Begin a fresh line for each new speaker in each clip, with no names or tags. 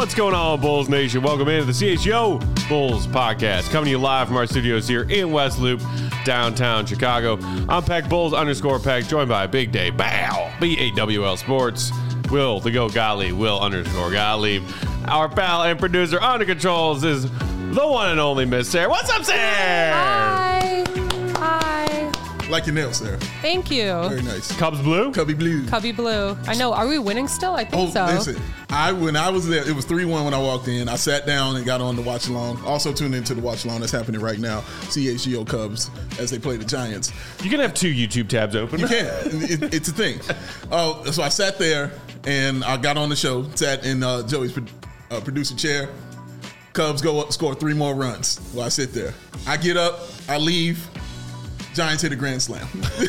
What's going on, Bulls Nation? Welcome into the CHGO Bulls podcast, coming to you live from our studios here in West Loop, downtown Chicago. I'm Peck Bulls_Peck, joined by Big Day Bow, BAWL Sports, Will the Go Gottlieb, Will_Gottlieb. Our pal and producer under controls is the one and only Miss Sarah. What's up, Sarah?
Hi.
Like your nails, Sarah.
Thank you.
Very nice.
Cubs blue?
Cubby blue.
Cubby blue. I know. Are we winning still? I think so.
Listen. When I was there, it was 3-1 when I walked in. I sat down and got on the watch along. Also tuned into the watch along that's happening right now. CHGO Cubs as they play the Giants.
You can have two YouTube tabs open.
You can. It's a thing. So I sat there and I got on the show, sat in Joey's producer chair. Cubs go up, score 3 more runs while I sit there. I get up, I leave. Giants hit a grand slam.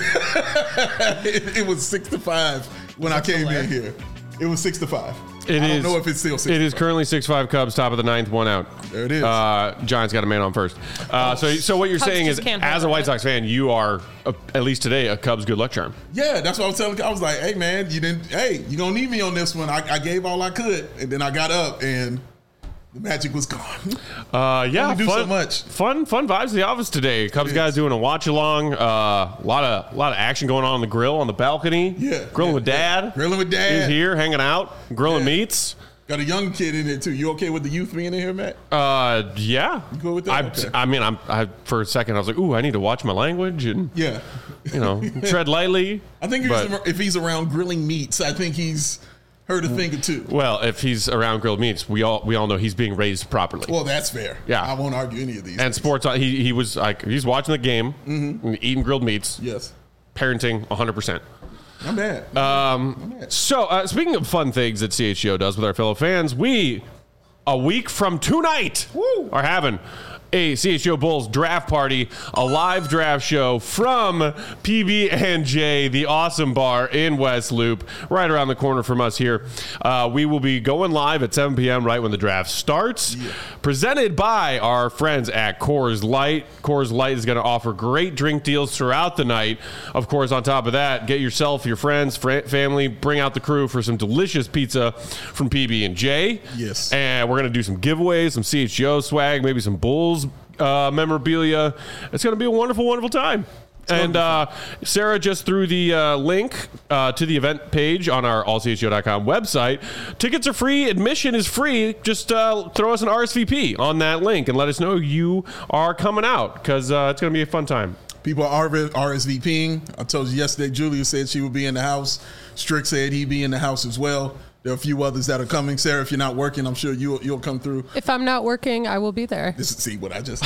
It was 6-5 when I came in here. It was 6-5. I don't know if it's still 6-5.
It is currently 6-5 Cubs, top of the 9th, 1 out.
There it is.
Giants got a man on first. So what you're
Cubs
saying is,
can't
as a White Sox fan, you are, at least today, a Cubs good luck charm.
Yeah, that's what I was telling. I was like, hey, man, you're going to need me on this one. I gave all I could, and then I got up, and the magic was gone.
Yeah,
do so much.
Fun vibes in the office today. Cubs guys doing a watch along. A lot of action going on the grill on the balcony.
Yeah,
grilling with Dad.
Grilling with Dad.
He's here hanging out, grilling meats.
Got a young kid in there too. You okay with the youth being in here, Matt?
Yeah.
You go with that? Okay.
I mean, for a second I was like, ooh, I need to watch my language and tread lightly.
I think if he's around grilling meats, I think he's heard a thing or two.
Well, if he's around grilled meats, we all know he's being raised properly.
Well, that's fair.
Yeah,
I won't argue any of these.
And sports, he was like, he's watching the game, eating grilled meats.
Yes,
parenting 100%.
Not bad.
So speaking of fun things that CHGO does with our fellow fans, we a week from tonight are having a CHGO Bulls draft party, a live draft show from PB&J, the awesome bar in West Loop, right around the corner from us here. We will be going live at 7 p.m. right when the draft starts. Yeah. Presented by our friends at Coors Light. Coors Light is going to offer great drink deals throughout the night. Of course, on top of that, get yourself, your friends, family, bring out the crew for some delicious pizza from PB&J.
Yes.
And we're going to do some giveaways, some CHGO swag, maybe some Bulls memorabilia. It's going to be a wonderful, wonderful time. And Sarah just threw the link to the event page on our allchgo.com website. Tickets are free. Admission is free. Just throw us an RSVP on that link and let us know you are coming out, because it's going to be a fun time.
People are RSVPing. I told you yesterday, Julia said she would be in the house. Strick said he'd be in the house as well. There are a few others that are coming. Sarah, if you're not working, I'm sure you'll come through.
If I'm not working, I will be there.
See what I just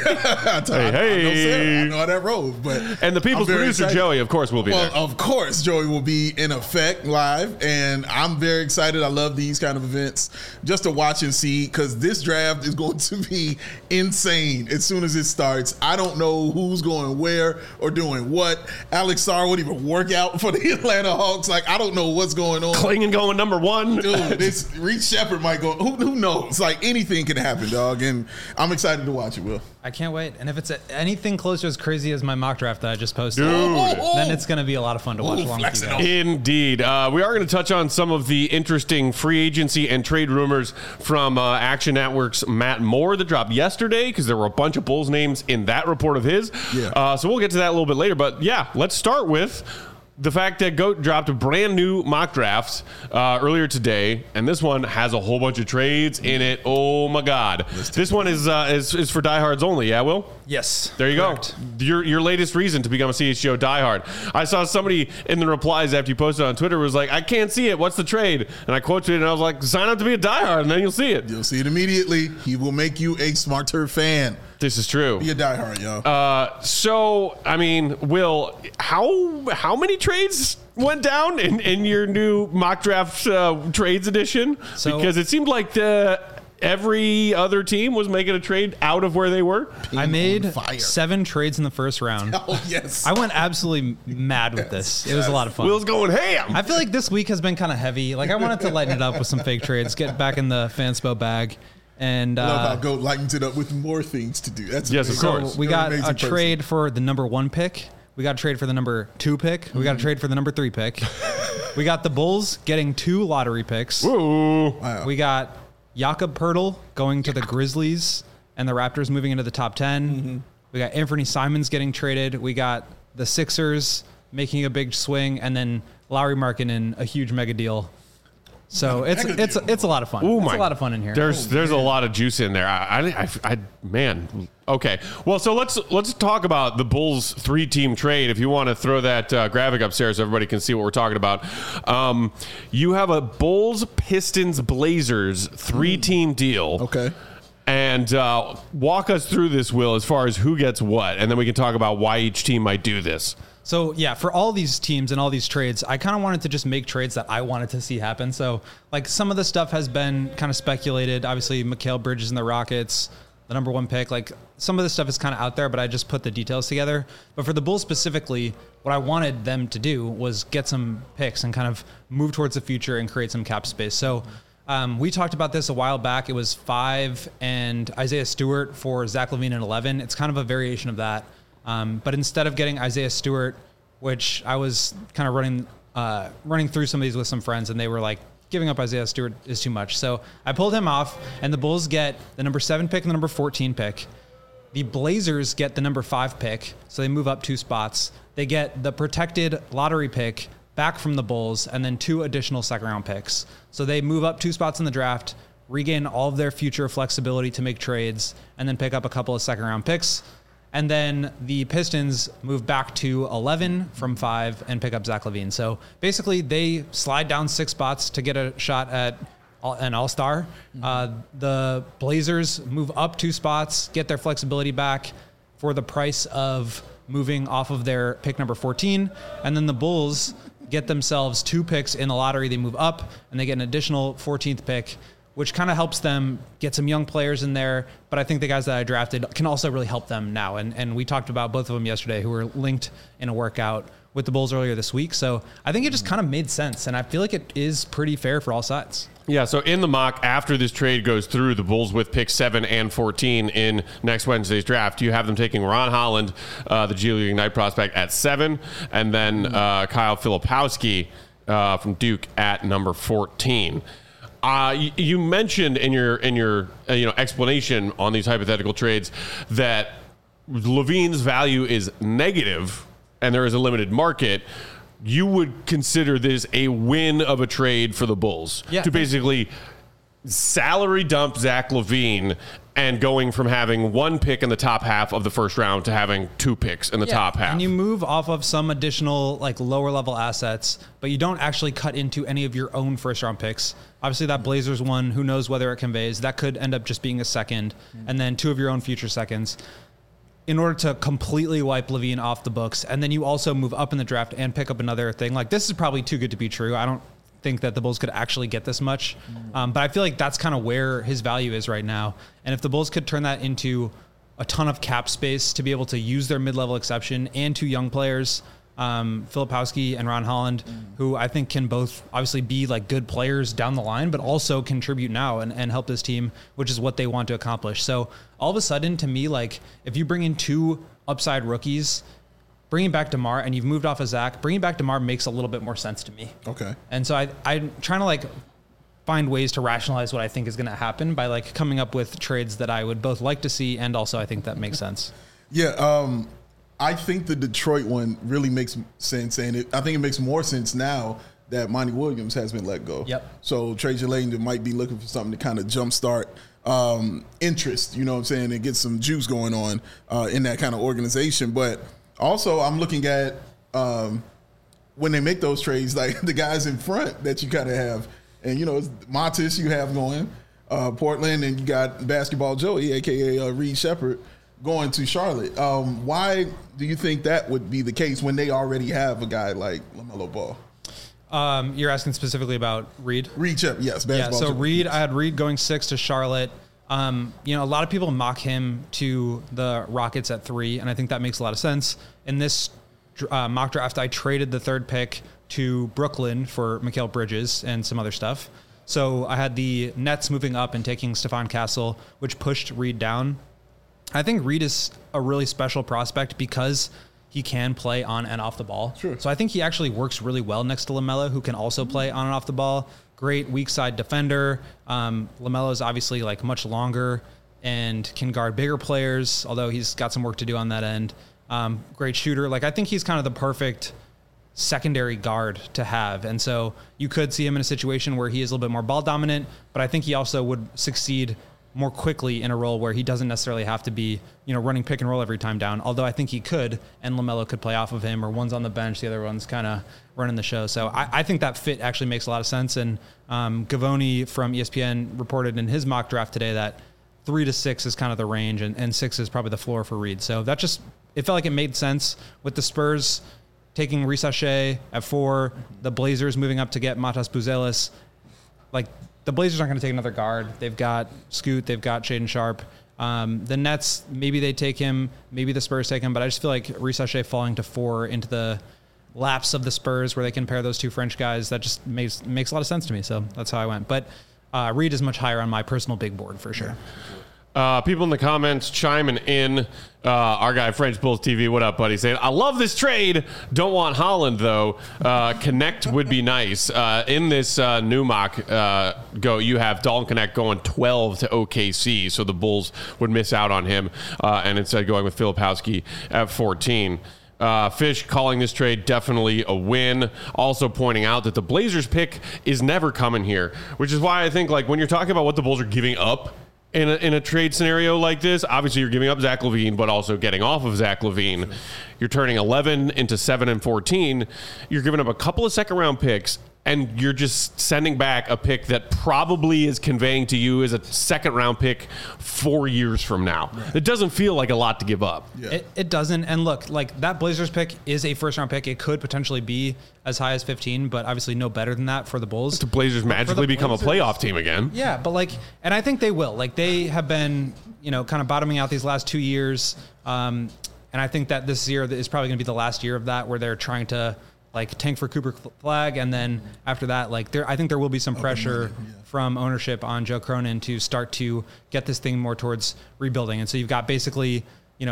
said. I know Sarah. I know how that rolls.
And the people's producer, excited. Joey, of course, will be there.
Well, of course, Joey will be in effect live. And I'm very excited. I love these kind of events just to watch and see, because this draft is going to be insane as soon as it starts. I don't know who's going where or doing what. Alex Sarr won't even work out for the Atlanta Hawks. Like, I don't know what's going on.
Klingon going number 1.
Dude, this Reed Shepard might go. Who knows? Like, anything can happen, dog. And I'm excited to watch it, Will.
I can't wait. And if it's anything close to as crazy as my mock draft that I just posted,
Dude.
then it's going to be a lot of fun to watch along with you guys.
Indeed. We are going to touch on some of the interesting free agency and trade rumors from Action Network's Matt Moore that dropped yesterday, because there were a bunch of Bulls names in that report of his.
Yeah.
So we'll get to that a little bit later. But yeah, let's start with the fact that GOAT dropped a brand new mock draft earlier today, and this one has a whole bunch of trades in it. Oh my God! This one is for diehards only. Yeah, Will?
Yes.
There you
correct.
go. Your latest reason to become a CHGO diehard. I saw somebody in the replies after you posted on Twitter was like, "I can't see it. What's the trade?" And I quoted it, and I was like, "Sign up to be a diehard, and then you'll see it."
You'll see it immediately. He will make you a smarter fan.
This is true.
Be a diehard, y'all.
So, I mean, Will, how many trades went down in your new mock draft trades edition? Because it seemed like every other team was making a trade out of where they were.
I made 7 trades in the first round.
Oh, yes.
I went absolutely mad with this. It was a lot of fun.
Will's going ham.
I feel like this week has been kind of heavy. Like, I wanted to lighten it up with some fake trades, get back in the Fanspo bag. And
I love how GOAT lightens it up with more things to do. That's
yes,
amazing.
of course.
So we got a trade for the number 1 pick. We got a trade for the number 2 pick. We got a trade for the number 3 pick. We got the Bulls getting 2 lottery picks.
Ooh.
Wow.
We got Jakob Poeltl going to the Grizzlies and the Raptors moving into the top 10. Mm-hmm. We got Anthony Simons getting traded. We got the Sixers making a big swing, and then Lauri Markkanen, a huge mega deal. So it's a lot of fun. It's a lot of fun in here.
There's a lot of juice in there. Man. Okay. Well, so let's talk about the Bulls 3-team trade. If you want to throw that graphic upstairs so everybody can see what we're talking about. You have a Bulls, Pistons, Blazers 3-team deal.
Okay.
And walk us through this, Will, as far as who gets what, and then we can talk about why each team might do this.
So, yeah, for all these teams and all these trades, I kind of wanted to just make trades that I wanted to see happen. So, like, some of the stuff has been kind of speculated. Obviously, Mikal Bridges and the Rockets, the number 1 pick. Like, some of this stuff is kind of out there, but I just put the details together. But for the Bulls specifically, what I wanted them to do was get some picks and kind of move towards the future and create some cap space. So, we talked about this a while back. It was 5 and Isaiah Stewart for Zach LaVine and 11. It's kind of a variation of that. But instead of getting Isaiah Stewart, which I was kind of running through some of these with some friends, and they were like, giving up Isaiah Stewart is too much. So I pulled him off, and the Bulls get the number 7 pick and the number 14 pick. The Blazers get the number 5 pick, so they move up 2 spots. They get the protected lottery pick back from the Bulls, and then 2 additional second-round picks. So they move up 2 spots in the draft, regain all of their future flexibility to make trades, and then pick up a couple of second-round picks. And then the Pistons move back to 11 from 5 and pick up Zach LaVine. So basically, they slide down 6 spots to get a shot at an all-star. The Blazers move up 2 spots, get their flexibility back for the price of moving off of their pick number 14. And then the Bulls get themselves 2 picks in the lottery. They move up, and they get an additional 14th pick, which kind of helps them get some young players in there. But I think the guys that I drafted can also really help them now. And we talked about both of them yesterday who were linked in a workout with the Bulls earlier this week. So I think it just kind of made sense. And I feel like it is pretty fair for all sides.
Yeah, so in the mock, after this trade goes through, the Bulls with pick 7 and 14 in next Wednesday's draft, you have them taking Ron Holland, the G League Ignite prospect, at 7, and then Kyle Filipowski from Duke at number 14. You mentioned in your explanation on these hypothetical trades that LaVine's value is negative and there is a limited market. You would consider this a win of a trade for the Bulls to basically salary dump Zach LaVine and going from having 1 pick in the top half of the first round to having 2 picks in the top half.
And you move off of some additional like lower level assets, but you don't actually cut into any of your own first round picks. Obviously that Blazers one, who knows whether it conveys, that could end up just being a second, and then 2 of your own future seconds in order to completely wipe LaVine off the books. And then you also move up in the draft and pick up another thing. Like, this is probably too good to be true. I don't think that the Bulls could actually get this much. But I feel like that's kind of where his value is right now. And if the Bulls could turn that into a ton of cap space to be able to use their mid-level exception and 2 young players, Filipowski and Ron Holland, who I think can both obviously be like good players down the line, but also contribute now and help this team, which is what they want to accomplish. So all of a sudden, to me, like, if you bring in 2 upside rookies, bringing back DeMar, and you've moved off of Zach, bringing back DeMar makes a little bit more sense to me.
Okay.
And so I'm trying to like find ways to rationalize what I think is going to happen by like coming up with trades that I would both like to see and also I think that makes sense.
Yeah. I think the Detroit one really makes sense, and I think it makes more sense now that Monty Williams has been let go.
Yep.
So Trajan Langdon might be looking for something to kind of jumpstart interest, you know what I'm saying, and get some juice going on in that kind of organization. But also I'm looking at when they make those trades, like the guys in front that you kind of have. And, you know, it's Montes you have going, Portland, and you got Basketball Joey, a.k.a. Reed Shepherd, going to Charlotte. Why do you think that would be the case when they already have a guy like LaMelo Ball?
You're asking specifically about Reed?
Reed Shepherd, yes.
Basketball
Joey.
Reed, I had Reed going 6 to Charlotte. A lot of people mock him to the Rockets at 3, and I think that makes a lot of sense. In this mock draft, I traded the 3rd pick to Brooklyn for Mikal Bridges and some other stuff. So I had the Nets moving up and taking Stephon Castle, which pushed Reed down. I think Reed is a really special prospect because he can play on and off the ball.
Sure.
So I think he actually works really well next to LaMelo, who can also play on and off the ball. great weak side defender. LaMelo's obviously like much longer and can guard bigger players, although he's got some work to do on that end. Great shooter. Like, I think he's kind of the perfect secondary guard to have. And so you could see him in a situation where he is a little bit more ball dominant, but I think he also would succeed more quickly in a role where he doesn't necessarily have to be, running pick and roll every time down. Although I think he could, and LaMelo could play off of him, or one's on the bench, the other one's kind of running the show. So I think that fit actually makes a lot of sense. And Gavoni from ESPN reported in his mock draft today that 3 to 6 is kind of the range, and 6 is probably the floor for Reed. So it felt like it made sense with the Spurs taking Reese Shea at 4, the Blazers moving up to get Matas Buzelis. Like, the Blazers aren't going to take another guard. They've got Scoot. They've got Shaedon Sharpe. The Nets, maybe they take him. Maybe the Spurs take him. But I just feel like Reese Shea falling to 4 into the laps of the Spurs where they can pair those two French guys, that just makes a lot of sense to me. So that's how I went. But Reed is much higher on my personal big board for sure.
People in the comments chiming in. Our guy, French Bulls TV, what up, buddy? Saying, I love this trade. Don't want Holland, though. Connect would be nice. In this new mock, you have Dalton Connect going 12 to OKC, so the Bulls would miss out on him, and instead going with Filipowski at 14. Fish calling this trade definitely a win. Also pointing out that the Blazers pick is never coming here, which is why I think, like, when you're talking about what the Bulls are giving up in a trade scenario like this, obviously you're giving up Zach LaVine, but also getting off of Zach LaVine. You're turning 11 into 7 and 14. You're giving up a couple of second-round picks, and you're just sending back a pick that probably is conveying to you as a second-round pick 4 years from now. Right. It doesn't feel like a lot to give up.
Yeah. It doesn't. And look, like, that Blazers pick is a first-round pick. It could potentially be as high as 15, but obviously no better than that for the Bulls.
The Blazers magically become a playoff team again.
Yeah, but like, and I think they will. Like, they have been, kind of bottoming out these last 2 years. And I think that this year is probably going to be the last year of that, where they're trying to, like, tank for Cooper Flag, and then after that, like, I think there will be some pressure from ownership on Joe Cronin to start to get this thing more towards rebuilding. And so you've got basically, the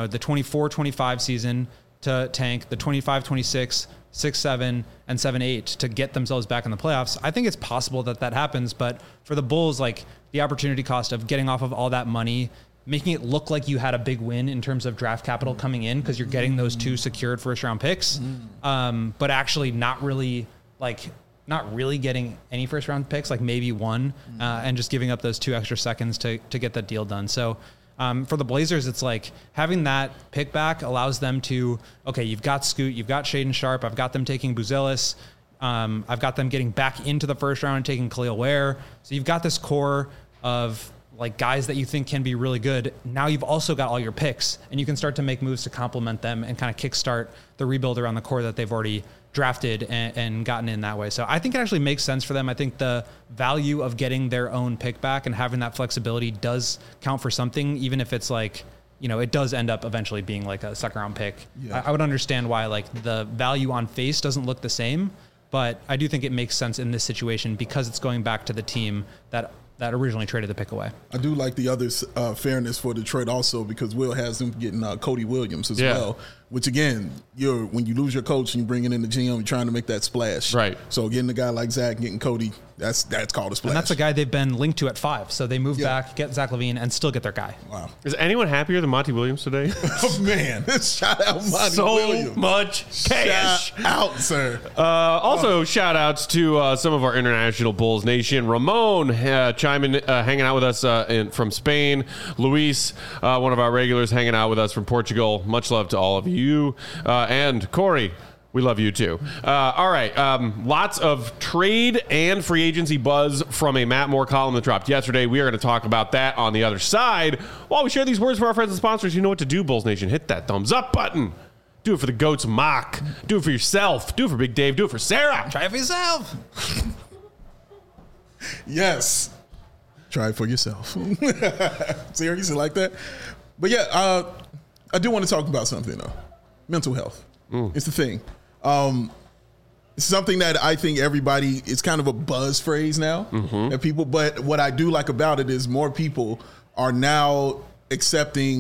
24-25 season to tank, the 25-26, 6-7, and 7-8 to get themselves back in the playoffs. I think it's possible that happens, but for the Bulls, like, the opportunity cost of getting off of all that money, making it look like you had a big win in terms of draft capital coming in because you're getting those 2 secured first-round picks, but actually not really getting any first-round picks, like maybe 1, and just giving up those 2 extra seconds to get that deal done. So for the Blazers, it's like having that pick back allows them to, okay, you've got Scoot, you've got Shaedon Sharpe, I've got them taking Buzelis, I've got them getting back into the first round and taking Khalil Ware. So you've got this core of, like, guys that you think can be really good. Now you've also got all your picks, and you can start to make moves to complement them and kind of kickstart the rebuild around the core that they've already drafted and gotten in that way. So I think it actually makes sense for them. I think the value of getting their own pick back and having that flexibility does count for something, even if it's like, it does end up eventually being like a second round pick. Yeah. I would understand why, like, the value on face doesn't look the same, but I do think it makes sense in this situation because it's going back to the team that originally traded the pick away.
I do like the other fairness for Detroit also, because Will has them getting Cody Williams as well, which, again, when you lose your coach and you bring it in the GM, you're trying to make that splash.
Right.
So getting a guy like Zach, getting Cody, that's called a splash.
And that's a guy they've been linked to at 5. So they move back, get Zach LaVine, and still get their guy.
Wow.
Is anyone happier than Monty Williams today?
Oh, man. Shout out Monty Williams.
So much cash.
Shout out, sir.
Also, shout outs to some of our international Bulls Nation. Ramon hanging out with us from Spain. Luis, one of our regulars, hanging out with us from Portugal. Much love to all of you. And Corey, we love you too. All right. Lots of trade and free agency buzz from a Matt Moore column that dropped yesterday. We are going to talk about that on the other side. While we share these words for our friends and sponsors, you know what to do, Bulls Nation. Hit that thumbs up button. Do it for the GOAT's mock. Do it for yourself. Do it for Big Dave. Do it for Sarah.
Try it for yourself.
Yes. Try it for yourself. Seriously, like that? But yeah, I do want to talk about something, though. Mental health. It's the thing. It's something that I think everybody, it's kind of a buzz phrase now. That people, but what I do like about it is more people are now accepting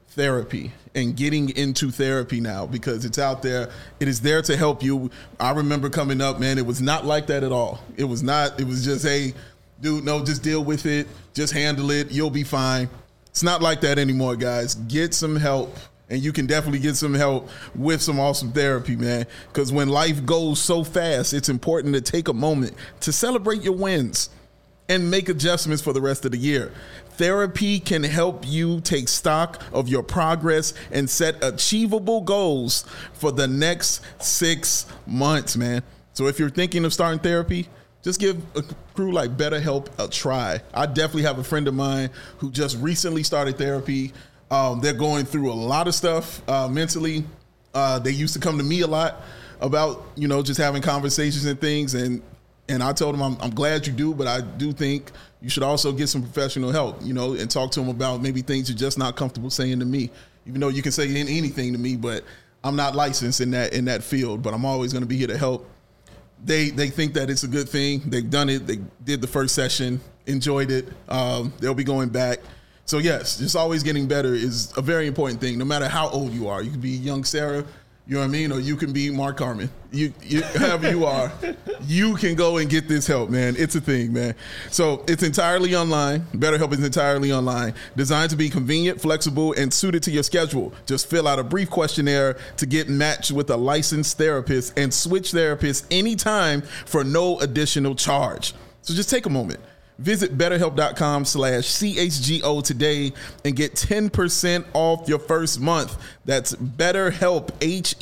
therapy and getting into therapy now because it's out there. It is there to help you. I remember coming up, man, it was not like that at all. It was just, hey, dude, no, just deal with it. Just handle it. You'll be fine. It's not like that anymore, guys. Get some help. And you can definitely get some help with some awesome therapy, man. Because when life goes so fast, it's important to take a moment to celebrate your wins and make adjustments for the rest of the year. Therapy can help you take stock of your progress and set achievable goals for the next 6 months, man. So if you're thinking of starting therapy, just give a crew like BetterHelp a try. I definitely have a friend of mine who just recently started therapy. They're going through a lot of stuff mentally. They used to come to me a lot about, just having conversations and things. And I told them, I'm glad you do, but I do think you should also get some professional help, and talk to them about maybe things you're just not comfortable saying to me. Even though you can say anything to me, but I'm not licensed in that field, but I'm always going to be here to help. They think that it's a good thing. They've done it. They did the first session, enjoyed it. They'll be going back. So yes, just always getting better is a very important thing, no matter how old you are. You can be young Sarah, you know what I mean? Or you can be Mark Carmen. You however you are, you can go and get this help, man. It's a thing, man. So it's entirely online. BetterHelp is entirely online, designed to be convenient, flexible, and suited to your schedule. Just fill out a brief questionnaire to get matched with a licensed therapist and switch therapists anytime for no additional charge. So just take a moment. Visit BetterHelp.com/CHGO today and get 10% off your first month. That's BetterHelp,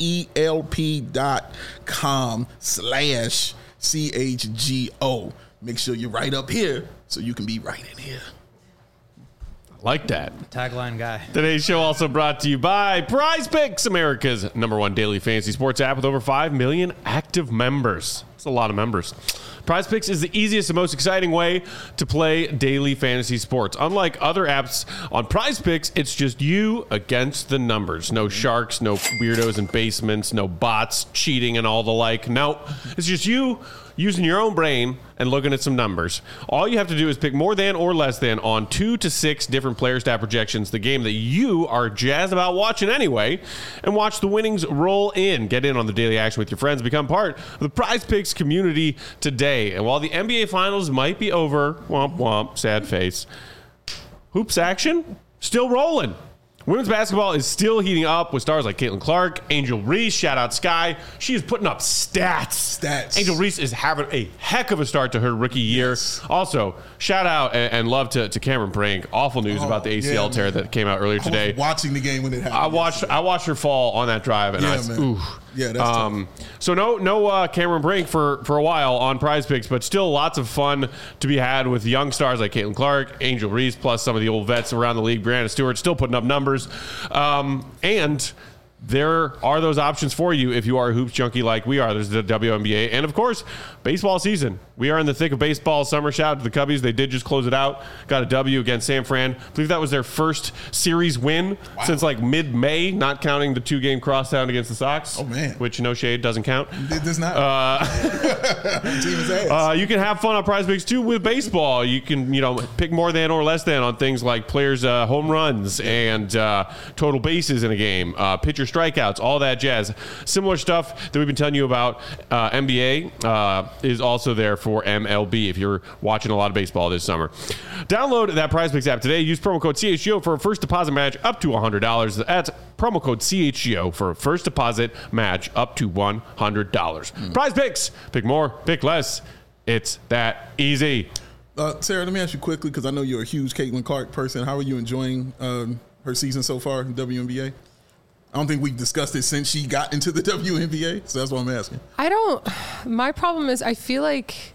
HELP.com/CHGO. Make sure you're right up here so you can be right in here.
Like that.
Tagline guy.
Today's show also brought to you by Prize Picks, America's #1 daily fantasy sports app with over 5 million active members. That's a lot of members. Prize Picks is the easiest and most exciting way to play daily fantasy sports. Unlike other apps on Prize Picks, it's just you against the numbers. No sharks, no weirdos in basements, no bots cheating and all the like. No, it's just you using your own brain and looking at some numbers. All you have to do is pick more than or less than on 2 to 6 different player stat projections, the game that you are jazzed about watching anyway, and watch the winnings roll in. Get in on the daily action with your friends. Become part of the Prize Picks community today. And while the NBA Finals might be over, womp womp, sad face, hoops action still rolling. Women's basketball is still heating up with stars like Caitlin Clark, Angel Reese, shout out Sky. She is putting up stats. Angel Reese is having a heck of a start to her rookie year. Yes. Also, shout out and love to Cameron Brink. Awful news about the ACL tear that came out earlier today.
I was watching the game when it happened.
I watched her fall on that drive, and ooh.
Yeah, that's tough.
So no Cameron Brink for a while on Prize Picks, but still lots of fun to be had with young stars like Caitlin Clark, Angel Reese, plus some of the old vets around the league. Brianna Stewart still putting up numbers. And there are those options for you if you are a hoops junkie like we are. There's the WNBA and, of course, baseball season. We are in the thick of baseball summer. Shout out to the Cubbies. They did just close it out. Got a W against San Fran. I believe that was their first series win since like mid-May, not counting the 2-game crosstown against the Sox.
Oh, man.
Which, no shade, doesn't count.
It does not. Team is ass.
You can have fun on Prize Picks, too, with baseball. You can, pick more than or less than on things like players' home runs and total bases in a game, pitcher strikeouts, all that jazz. Similar stuff that we've been telling you about NBA is also there for MLB if you're watching a lot of baseball this summer. Download that Prize Picks app today. Use promo code CHGO for a first deposit match up to $100. That's promo code CHGO for a first deposit match up to $100. Prize Picks. Pick more, pick less. It's that easy.
Sarah, let me ask you quickly, because I know you're a huge Caitlin Clark person. How are you enjoying her season so far in WNBA? I don't think we've discussed it since she got into the WNBA, so that's what I'm asking.
My problem is I feel like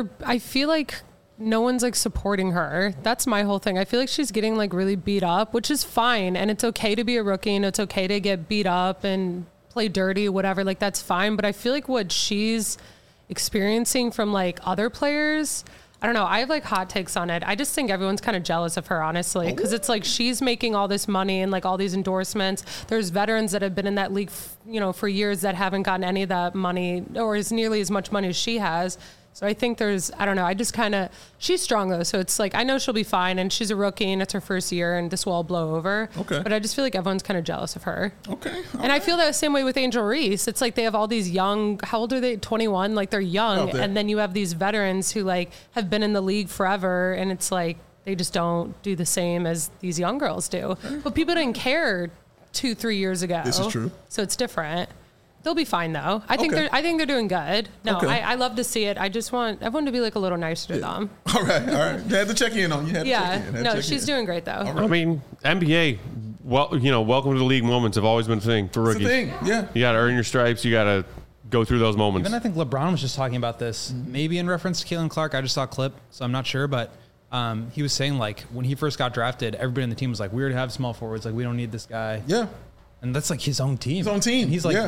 no one's like supporting her. That's my whole thing. I feel like she's getting like really beat up, which is fine. And it's okay to be a rookie and it's okay to get beat up and play dirty, whatever. Like that's fine. But I feel like what she's experiencing from like other players, I don't know. I have like hot takes on it. I just think everyone's kind of jealous of her, honestly, because it's like she's making all this money and like all these endorsements. There's veterans that have been in that league, for years that haven't gotten any of that money or as nearly as much money as she has. So I think I don't know. I just she's strong though. So it's like, I know she'll be fine and she's a rookie and it's her first year and this will all blow over.
Okay.
But I just feel like everyone's kind of jealous of her.
Okay.
And I feel that same way with Angel Reese. It's like they have all these young, how old are they? 21? Like they're young. And then you have these veterans who like have been in the league forever. And it's like, they just don't do the same as these young girls do. But people didn't care 2-3 years ago.
This is true.
So it's different. They'll be fine though. I think they're doing good. No, I love to see it. I just want everyone to be like a little nicer to them.
All right. You had to check in on you.
No, she's doing great though.
Right. I mean, NBA. Well, welcome to the league moments have always been a thing for rookies.
It's a thing. Yeah.
You got to earn your stripes. You got to go through those moments.
Even I think LeBron was just talking about this, maybe in reference to Caitlin Clark. I just saw a clip, so I'm not sure, but he was saying like when he first got drafted, everybody on the team was like, weird to have small forwards. Like we don't need this guy.
Yeah.
And that's like his own team.
His own team.
And he's like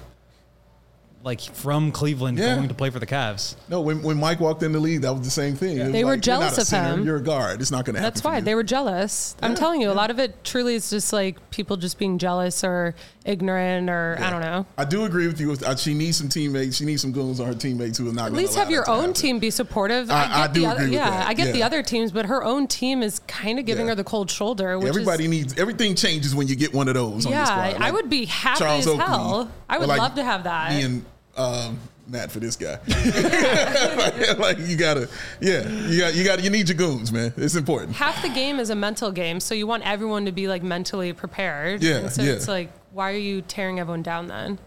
from Cleveland going to play for the Cavs.
No, when Mike walked in the league, that was the same thing.
Yeah. They were jealous of him.
You're a guard. It's not going to happen.
That's why they were jealous. Yeah. I'm telling you, a lot of it truly is just like people just being jealous or ignorant or I don't know.
I do agree with you. She needs some teammates. She needs some goons on her teammates who are not.
At least have your own team be supportive.
I do agree with that.
I get the other teams, but her own team is kind of giving her the cold shoulder. Which
everything changes when you get one of those. On your squad.
Like I would be happy as hell. I would love to have that.
Me and Matt for this guy. like you need your goons, man. It's important.
Half the game is a mental game, so you want everyone to be like mentally prepared. Yeah. And so it's like, why are you tearing everyone down then?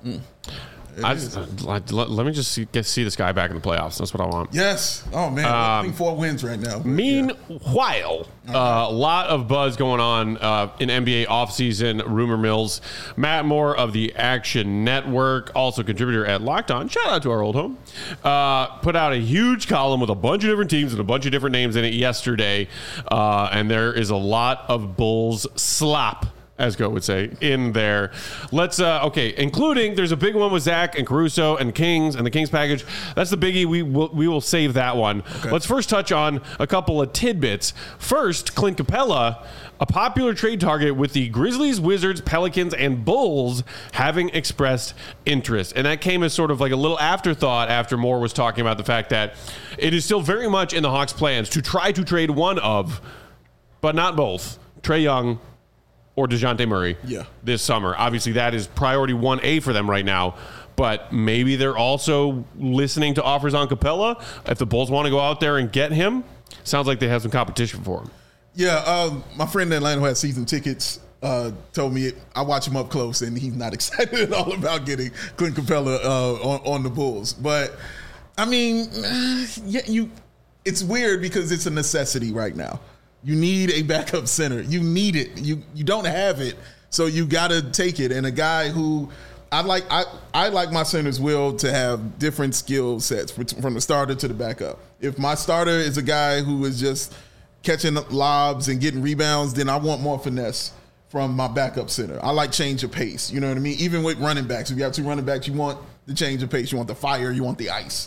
Let me just see this guy back in the playoffs. That's what I want.
Yes. Oh man, I think 4 wins right now.
Meanwhile, a lot of buzz going on in NBA offseason rumor mills. Matt Moore of the Action Network, also contributor at Locked On, shout out to our old home, put out a huge column with a bunch of different teams and a bunch of different names in it yesterday, and there is a lot of Bulls slop, as Go would say, in there. Let's, including, there's a big one with Zach and Caruso and Kings and the Kings package. That's the biggie. We will save that one. Okay. Let's first touch on a couple of tidbits. First, Clint Capella, a popular trade target with the Grizzlies, Wizards, Pelicans, and Bulls having expressed interest. And that came as sort of like a little afterthought after Moore was talking about the fact that it is still very much in the Hawks' plans to try to trade one of, but not both, Trae Young or DeJounte Murray this summer. Obviously, that is priority 1A for them right now. But maybe they're also listening to offers on Capella. If the Bulls want to go out there and get him, sounds like they have some competition for him.
Yeah, my friend in Atlanta who has season tickets told me I watch him up close, and he's not excited at all about getting Clint Capella on the Bulls. But, I mean, it's weird because it's a necessity right now. You need a backup center. You need it. You don't have it, so you got to take it. And a guy who I like my centers will to have different skill sets from the starter to the backup. If my starter is a guy who is just catching lobs and getting rebounds, then I want more finesse from my backup center. I like change of pace. You know what I mean? Even with running backs, if you have 2 running backs, you want the change of pace. You want the fire. You want the ice.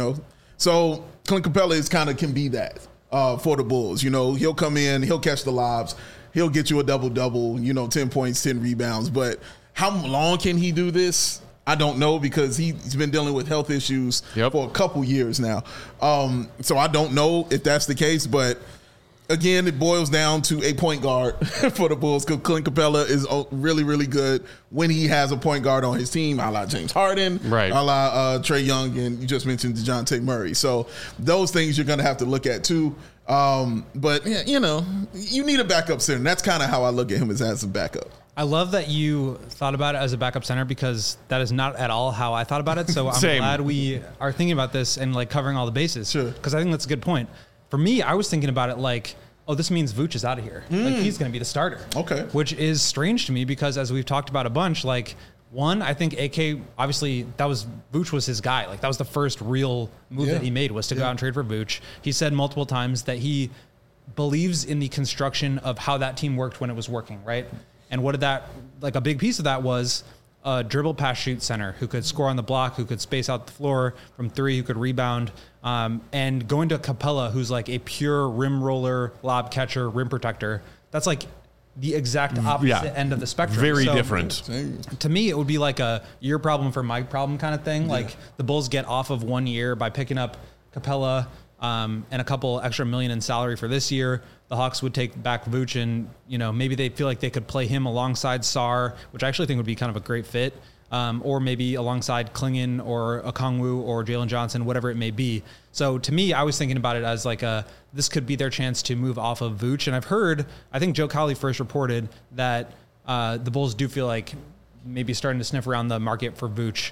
So Clint Capella can be that. For the Bulls, he'll come in, he'll catch the lobs, he'll get you a double-double, 10 points, 10 rebounds. But how long can he do this? I don't know, because he's been dealing with health issues for a couple years now. So I don't know if that's the case, but again, it boils down to a point guard for the Bulls, because Clint Capella is really, really good when he has a point guard on his team, a la James Harden,
right,
a la Trae Young, and you just mentioned DeJounte Murray. So those things you're going to have to look at too. But, you need a backup center. That's kind of how I look at him, as a backup.
I love that you thought about it as a backup center, because that is not at all how I thought about it. So I'm glad we are thinking about this and covering all the bases. Sure. Because I think that's a good point. For me, I was thinking about it like, oh, this means Vooch is out of here. He's going to be the starter. Okay. Which is strange to me, because as we've talked about a bunch, one, I think AK, obviously, Vooch was his guy. That was the first real move that he made, was to go out and trade for Vooch. He said multiple times that he believes in the construction of how that team worked when it was working, right? And what did that, a big piece of that was a dribble, pass, shoot center who could score on the block, who could space out the floor from 3, who could rebound. And going to Capella, who's a pure rim roller, lob catcher, rim protector. That's the exact opposite end of the spectrum.
Very different.
To me, it would be a your problem for my problem kind of thing. The Bulls get off of 1 year by picking up Capella and a couple extra million in salary for this year, the Hawks would take back Vooch, and maybe they feel like they could play him alongside Sarr, which I actually think would be kind of a great fit, or maybe alongside Klingon or Okongwu or Jalen Johnson, whatever it may be. So to me, I was thinking about it as like this could be their chance to move off of Vooch. And I've heard, I think Joe Cowley first reported that the Bulls do feel like maybe starting to sniff around the market for Vooch.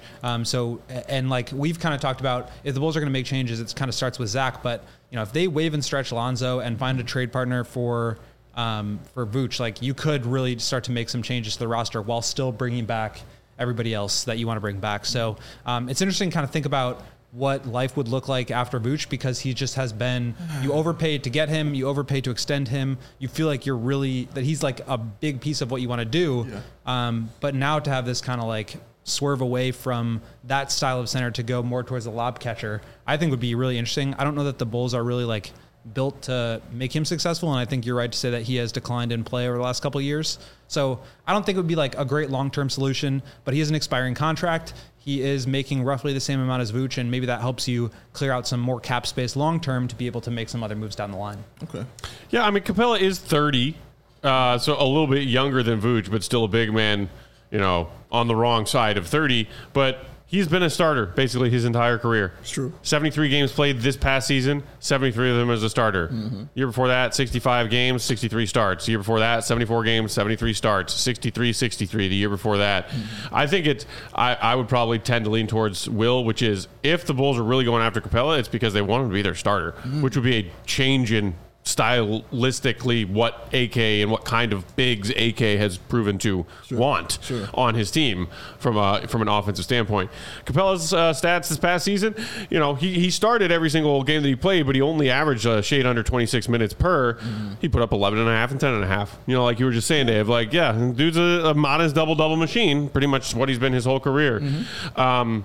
And like we've kind of talked about, if the Bulls are going to make changes, it kind of starts with Zach. But if they waive and stretch Lonzo and find a trade partner for Vooch, like you could really start to make some changes to the roster while still bringing back everybody else that you want to bring back. So it's interesting to kind of think about what life would look like after Vooch, because he just has been, you overpaid to get him, you overpaid to extend him. You feel like that he's like a big piece of what you want to do. Yeah. But now to have this kind of like swerve away from that style of center to go more towards the lob catcher, I think would be really interesting. I don't know that the Bulls are really like built to make him successful. And I think you're right to say that he has declined in play over the last couple of years. So I don't think it would be like a great long-term solution, but he has an expiring contract. He is making roughly the same amount as Vooch, and maybe that helps you clear out some more cap space long-term to be able to make some other moves down the line.
Okay.
Yeah, I mean, Capella is 30, so a little bit younger than Vooch, but still a big man, on the wrong side of 30. But he's been a starter basically his entire career.
It's true.
73 games played this past season, 73 of them as a starter. Mm-hmm. Year before that, 65 games, 63 starts. The year before that, 74 games, 73 starts. 63 the year before that. Mm-hmm. I think I would probably tend to lean towards Will, which is if the Bulls are really going after Capella, it's because they want him to be their starter, which would be a change in stylistically what AK and what kind of bigs AK has proven to want on his team from an offensive standpoint. Capella's stats this past season, he started every single game that he played, but he only averaged a shade under 26 minutes per. Mm-hmm. He put up 11.5 and 10.5. Like you were just saying, Dave, like, yeah, dude's a modest double-double machine, pretty much what he's been his whole career. Mm-hmm.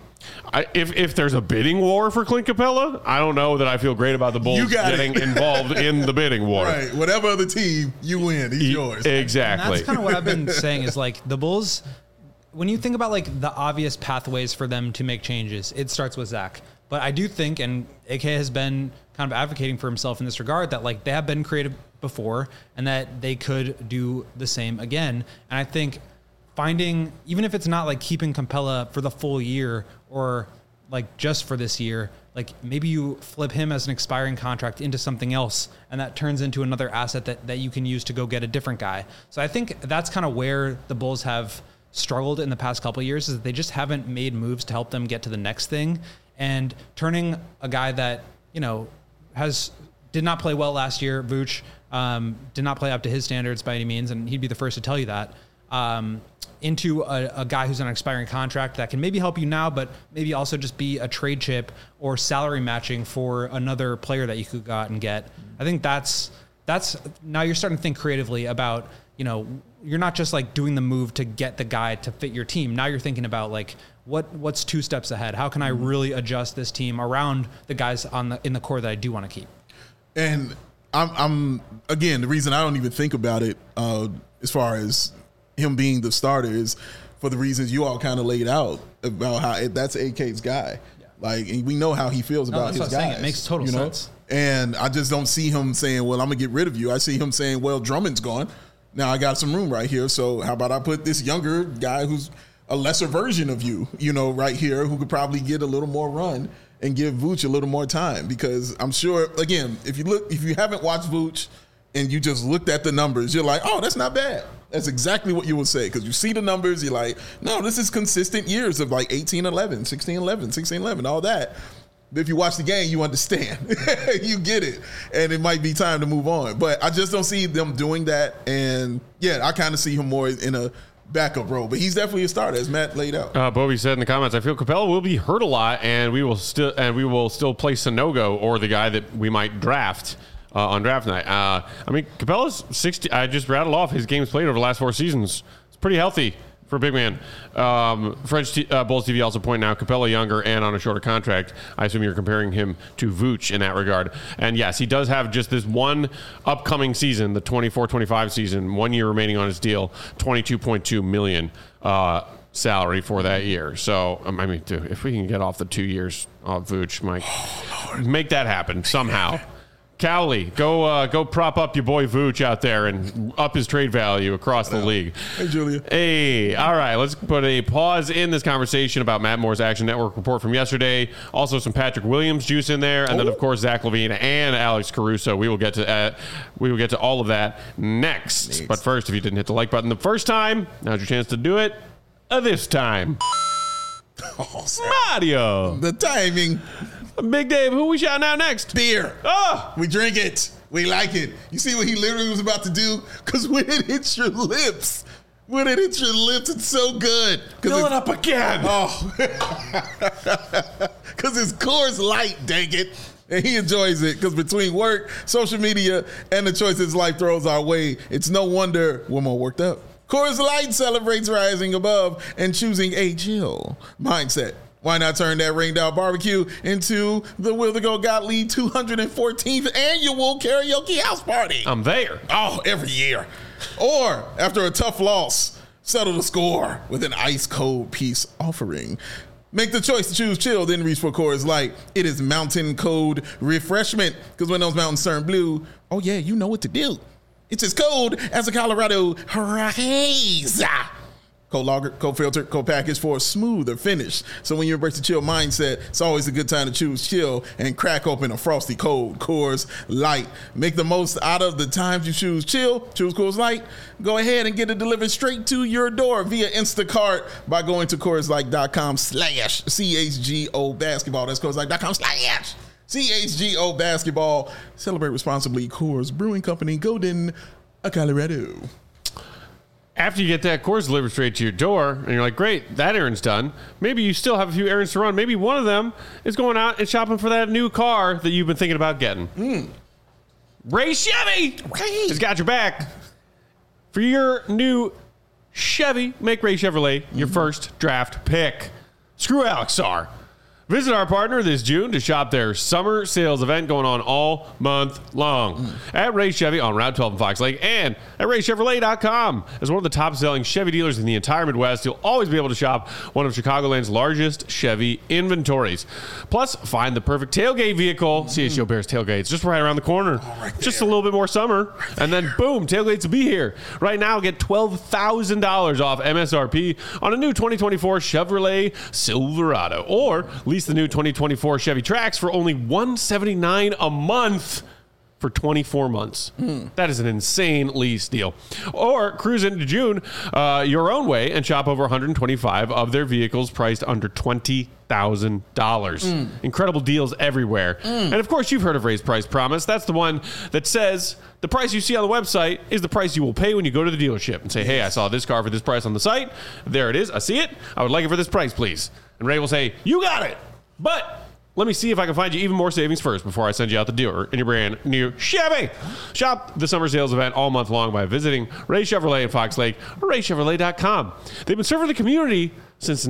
If there's a bidding war for Clint Capella, I don't know that I feel great about the Bulls getting involved in the bidding war.
Right. Whatever other team you win, he's yours.
Exactly.
And that's kind of what I've been saying is like the Bulls, when you think about like the obvious pathways for them to make changes, it starts with Zach. But I do think, and AK has been kind of advocating for himself in this regard, that like they have been creative before and that they could do the same again. And I think finding, even if it's not like keeping Capella for the full year or like just for this year, like maybe you flip him as an expiring contract into something else and that turns into another asset that you can use to go get a different guy. So I think that's kind of where the Bulls have struggled in the past couple of years, is that they just haven't made moves to help them get to the next thing. And turning a guy that, did not play well last year, Vooch, did not play up to his standards by any means, and he'd be the first to tell you that, into a guy who's on an expiring contract that can maybe help you now, but maybe also just be a trade chip or salary matching for another player that you could go out and get. I think that's now you're starting to think creatively about, you're not just like doing the move to get the guy to fit your team. Now you're thinking about like, what's two steps ahead? How can I really adjust this team around the guys in the core that I do want to keep?
And I'm again, the reason I don't even think about it as far as him being the starter is for the reasons you all kind of laid out about how that's AK's guy. Yeah. Like, and we know how he feels about his guys.
It makes total sense.
And I just don't see him saying, well, I'm going to get rid of you. I see him saying, well, Drummond's gone. Now I got some room right here. So how about I put this younger guy who's a lesser version of you, right here, who could probably get a little more run and give Vooch a little more time. Because I'm sure, again, if you haven't watched Vooch and you just looked at the numbers, you're like, oh, that's not bad. That's exactly what you would say, because you see the numbers, you're like, no, this is consistent years of like 18-11, 16-11, 16-11, all that. But if you watch the game, you understand. You get it. And it might be time to move on. But I just don't see them doing that. And, yeah, I kind of see him more in a backup role. But he's definitely a starter, as Matt laid out.
Bobby said in the comments, I feel Capella will be hurt a lot, and we will still play Sanogo or the guy that we might draft on draft night. I mean, Capella's 60. I just rattled off his games played over the last 4 seasons. It's pretty healthy for a big man. Bulls TV also pointing out Capella younger and on a shorter contract. I assume you're comparing him to Vooch in that regard. And yes, he does have just this one upcoming season, the 24-25 season, 1 year remaining on his deal, $22.2 million salary for that year. So, I mean, dude, if we can get off the 2 years of Vooch, Mike. Make that happen somehow. Cowley, go prop up your boy Vooch out there and up his trade value across the league.
Hey, Julia.
Hey, all right, let's put a pause in this conversation about Matt Moore's Action Network report from yesterday. Also some Patrick Williams juice in there, and then of course Zach LaVine and Alex Caruso. We will get to all of that next. But first, if you didn't hit the like button the first time, now's your chance to do it this time. Mario.
The timing.
Big Dave, who we shouting out next?
Beer.
Oh,
We drink it. We like it. You see what he literally was about to do? Because when it hits your lips, it's so good.
fill it up again.
Oh. Because it's Coors Light, dang it. And he enjoys it because between work, social media, and the choices life throws our way, it's no wonder we're more worked up. Coors Light celebrates rising above and choosing a chill mindset. Why not turn that Rained Out Barbecue into the Wildergo Gottlieb 214th annual karaoke house party?
I'm there.
Oh, every year. Or after a tough loss, settle the score with an ice cold peace offering. Make the choice to choose chill, then reach for Coors Light. It is mountain cold refreshment. Because when those mountains turn blue, oh yeah, you know what to do. It's as cold as a Colorado haze. Cold lager, cold filter, cold package for a smoother finish. So when you embrace the chill mindset, it's always a good time to choose chill and crack open a frosty cold Coors Light. Make the most out of the times you choose chill. Choose Coors Light. Go ahead and get it delivered straight to your door via Instacart by going to CoorsLight.com/CHGO basketball. That's CoorsLight.com/CHGO basketball. Celebrate responsibly. Coors Brewing Company, Golden, Colorado.
After you get that Coors delivered straight to your door, and you're like, great, that errand's done. Maybe you still have a few errands to run. Maybe one of them is going out and shopping for that new car that you've been thinking about getting. Ray Chevy has got your back. For your new Chevy, make Ray Chevrolet your first draft pick. Screw Alex Sarr. Visit our partner this June to shop their summer sales event going on all month long at Ray Chevy on Route 12 in Fox Lake and at RayChevrolet.com. As one of the top-selling Chevy dealers in the entire Midwest, you'll always be able to shop one of Chicagoland's largest Chevy inventories. Plus, find the perfect tailgate vehicle. CHGO Bears tailgates just right around the corner. Just a little bit more summer, and then boom, tailgates will be here. Right now, get $12,000 off MSRP on a new 2024 Chevrolet Silverado, or lease the new 2024 Chevy Trax for only $179 a month for 24 months. That is an insane lease deal. Or cruise into June your own way and shop over 125 of their vehicles priced under $20,000. Incredible deals everywhere. And of course, you've heard of Ray's Price Promise. That's the one that says the price you see on the website is the price you will pay when you go to the dealership and say, hey, I saw this car for this price on the site. There it is. I see it. I would like it for this price, please. And Ray will say, you got it. But let me see if I can find you even more savings first before I send you out the door in your brand new Chevy. Shop the summer sales event all month long by visiting Ray Chevrolet in Fox Lake or RayChevrolet.com. They've been serving the community since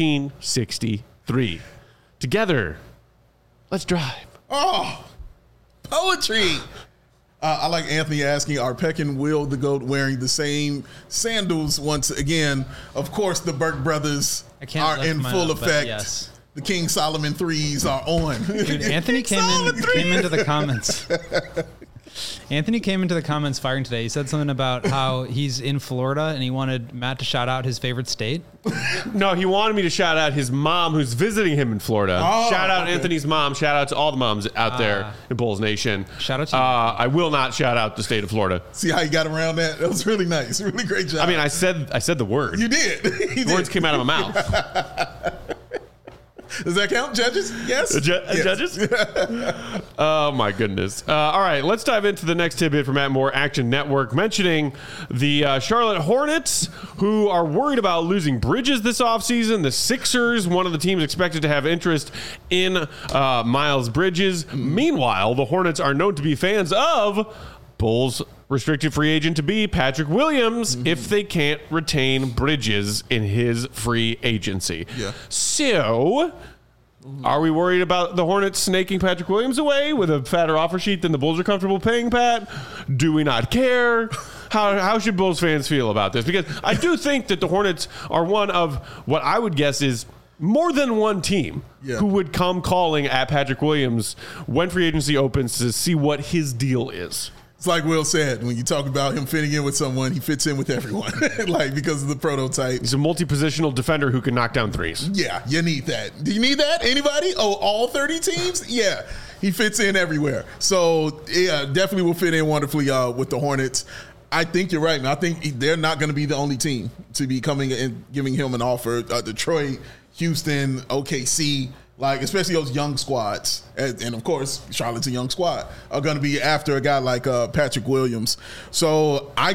1963. Together, let's drive.
Oh, poetry. I like Anthony asking, are Peck and Will the GOAT wearing the same sandals once again? Of course, the Burke brothers are in full effect.
Yes.
The King Solomon threes are on.
Dude, Anthony came into the comments. Anthony came into the comments firing today. He said something about how he's in Florida and he wanted Matt to shout out his favorite state.
No, he wanted me to shout out his mom who's visiting him in Florida. Shout out Anthony's mom. Shout out to all the moms out there in Bulls Nation.
Shout out to you.
I will not shout out the state of Florida.
See how you got around that? That was really nice. Really great job.
I mean, I said the word.
You did.
The words came out of my mouth.
Does that count, judges? Yes.
Yes. Judges? Oh, my goodness. All right, let's dive into the next tidbit from Matt Moore, Action Network, mentioning the Charlotte Hornets, who are worried about losing Bridges this offseason. The Sixers, one of the teams expected to have interest in Miles Bridges. Meanwhile, the Hornets are known to be fans of Bulls restricted free agent to be Patrick Williams if they can't retain Bridges in his free agency. Yeah. So, are we worried about the Hornets snaking Patrick Williams away with a fatter offer sheet than the Bulls are comfortable paying, Pat? Do we not care? How should Bulls fans feel about this? Because I do think that the Hornets are one of what I would guess is more than one team who would come calling at Patrick Williams when free agency opens to see what his deal is.
It's like Will said, when you talk about him fitting in with someone, he fits in with everyone, like because of the prototype.
He's a multi-positional defender who can knock down threes.
Yeah, you need that. Do you need that? Anybody? Oh, all 30 teams? Yeah, he fits in everywhere. So, yeah, definitely will fit in wonderfully with the Hornets. I think you're right, man. I think they're not going to be the only team to be coming and giving him an offer. Detroit, Houston, OKC, like especially those young squads, and of course Charlotte's a young squad, are going to be after a guy like Patrick Williams. So I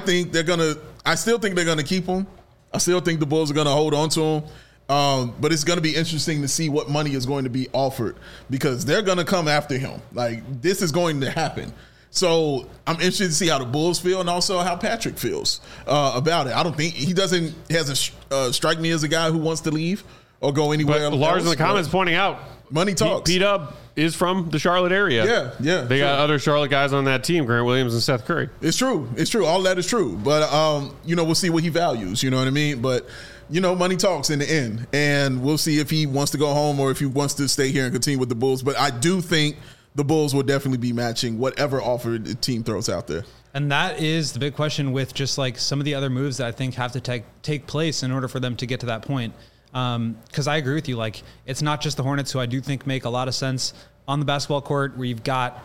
still think they're going to keep him. I still think the Bulls are going to hold on to him. But it's going to be interesting to see what money is going to be offered because they're going to come after him. Like this is going to happen. So I'm interested to see how the Bulls feel and also how Patrick feels about it. I don't think he hasn't strike me as a guy who wants to leave or go anywhere else.
Lars in the comments pointing out
money talks.
P-Dub is from the Charlotte area.
Yeah.
They got other Charlotte guys on that team, Grant Williams and Seth Curry.
It's true. All that is true. But, we'll see what he values. You know what I mean? But, money talks in the end. And we'll see if he wants to go home or if he wants to stay here and continue with the Bulls. But I do think the Bulls will definitely be matching whatever offer the team throws out there.
And that is the big question with just like some of the other moves that I think have to take place in order for them to get to that point. Because I agree with you. Like, it's not just the Hornets, who I do think make a lot of sense on the basketball court, where you've got,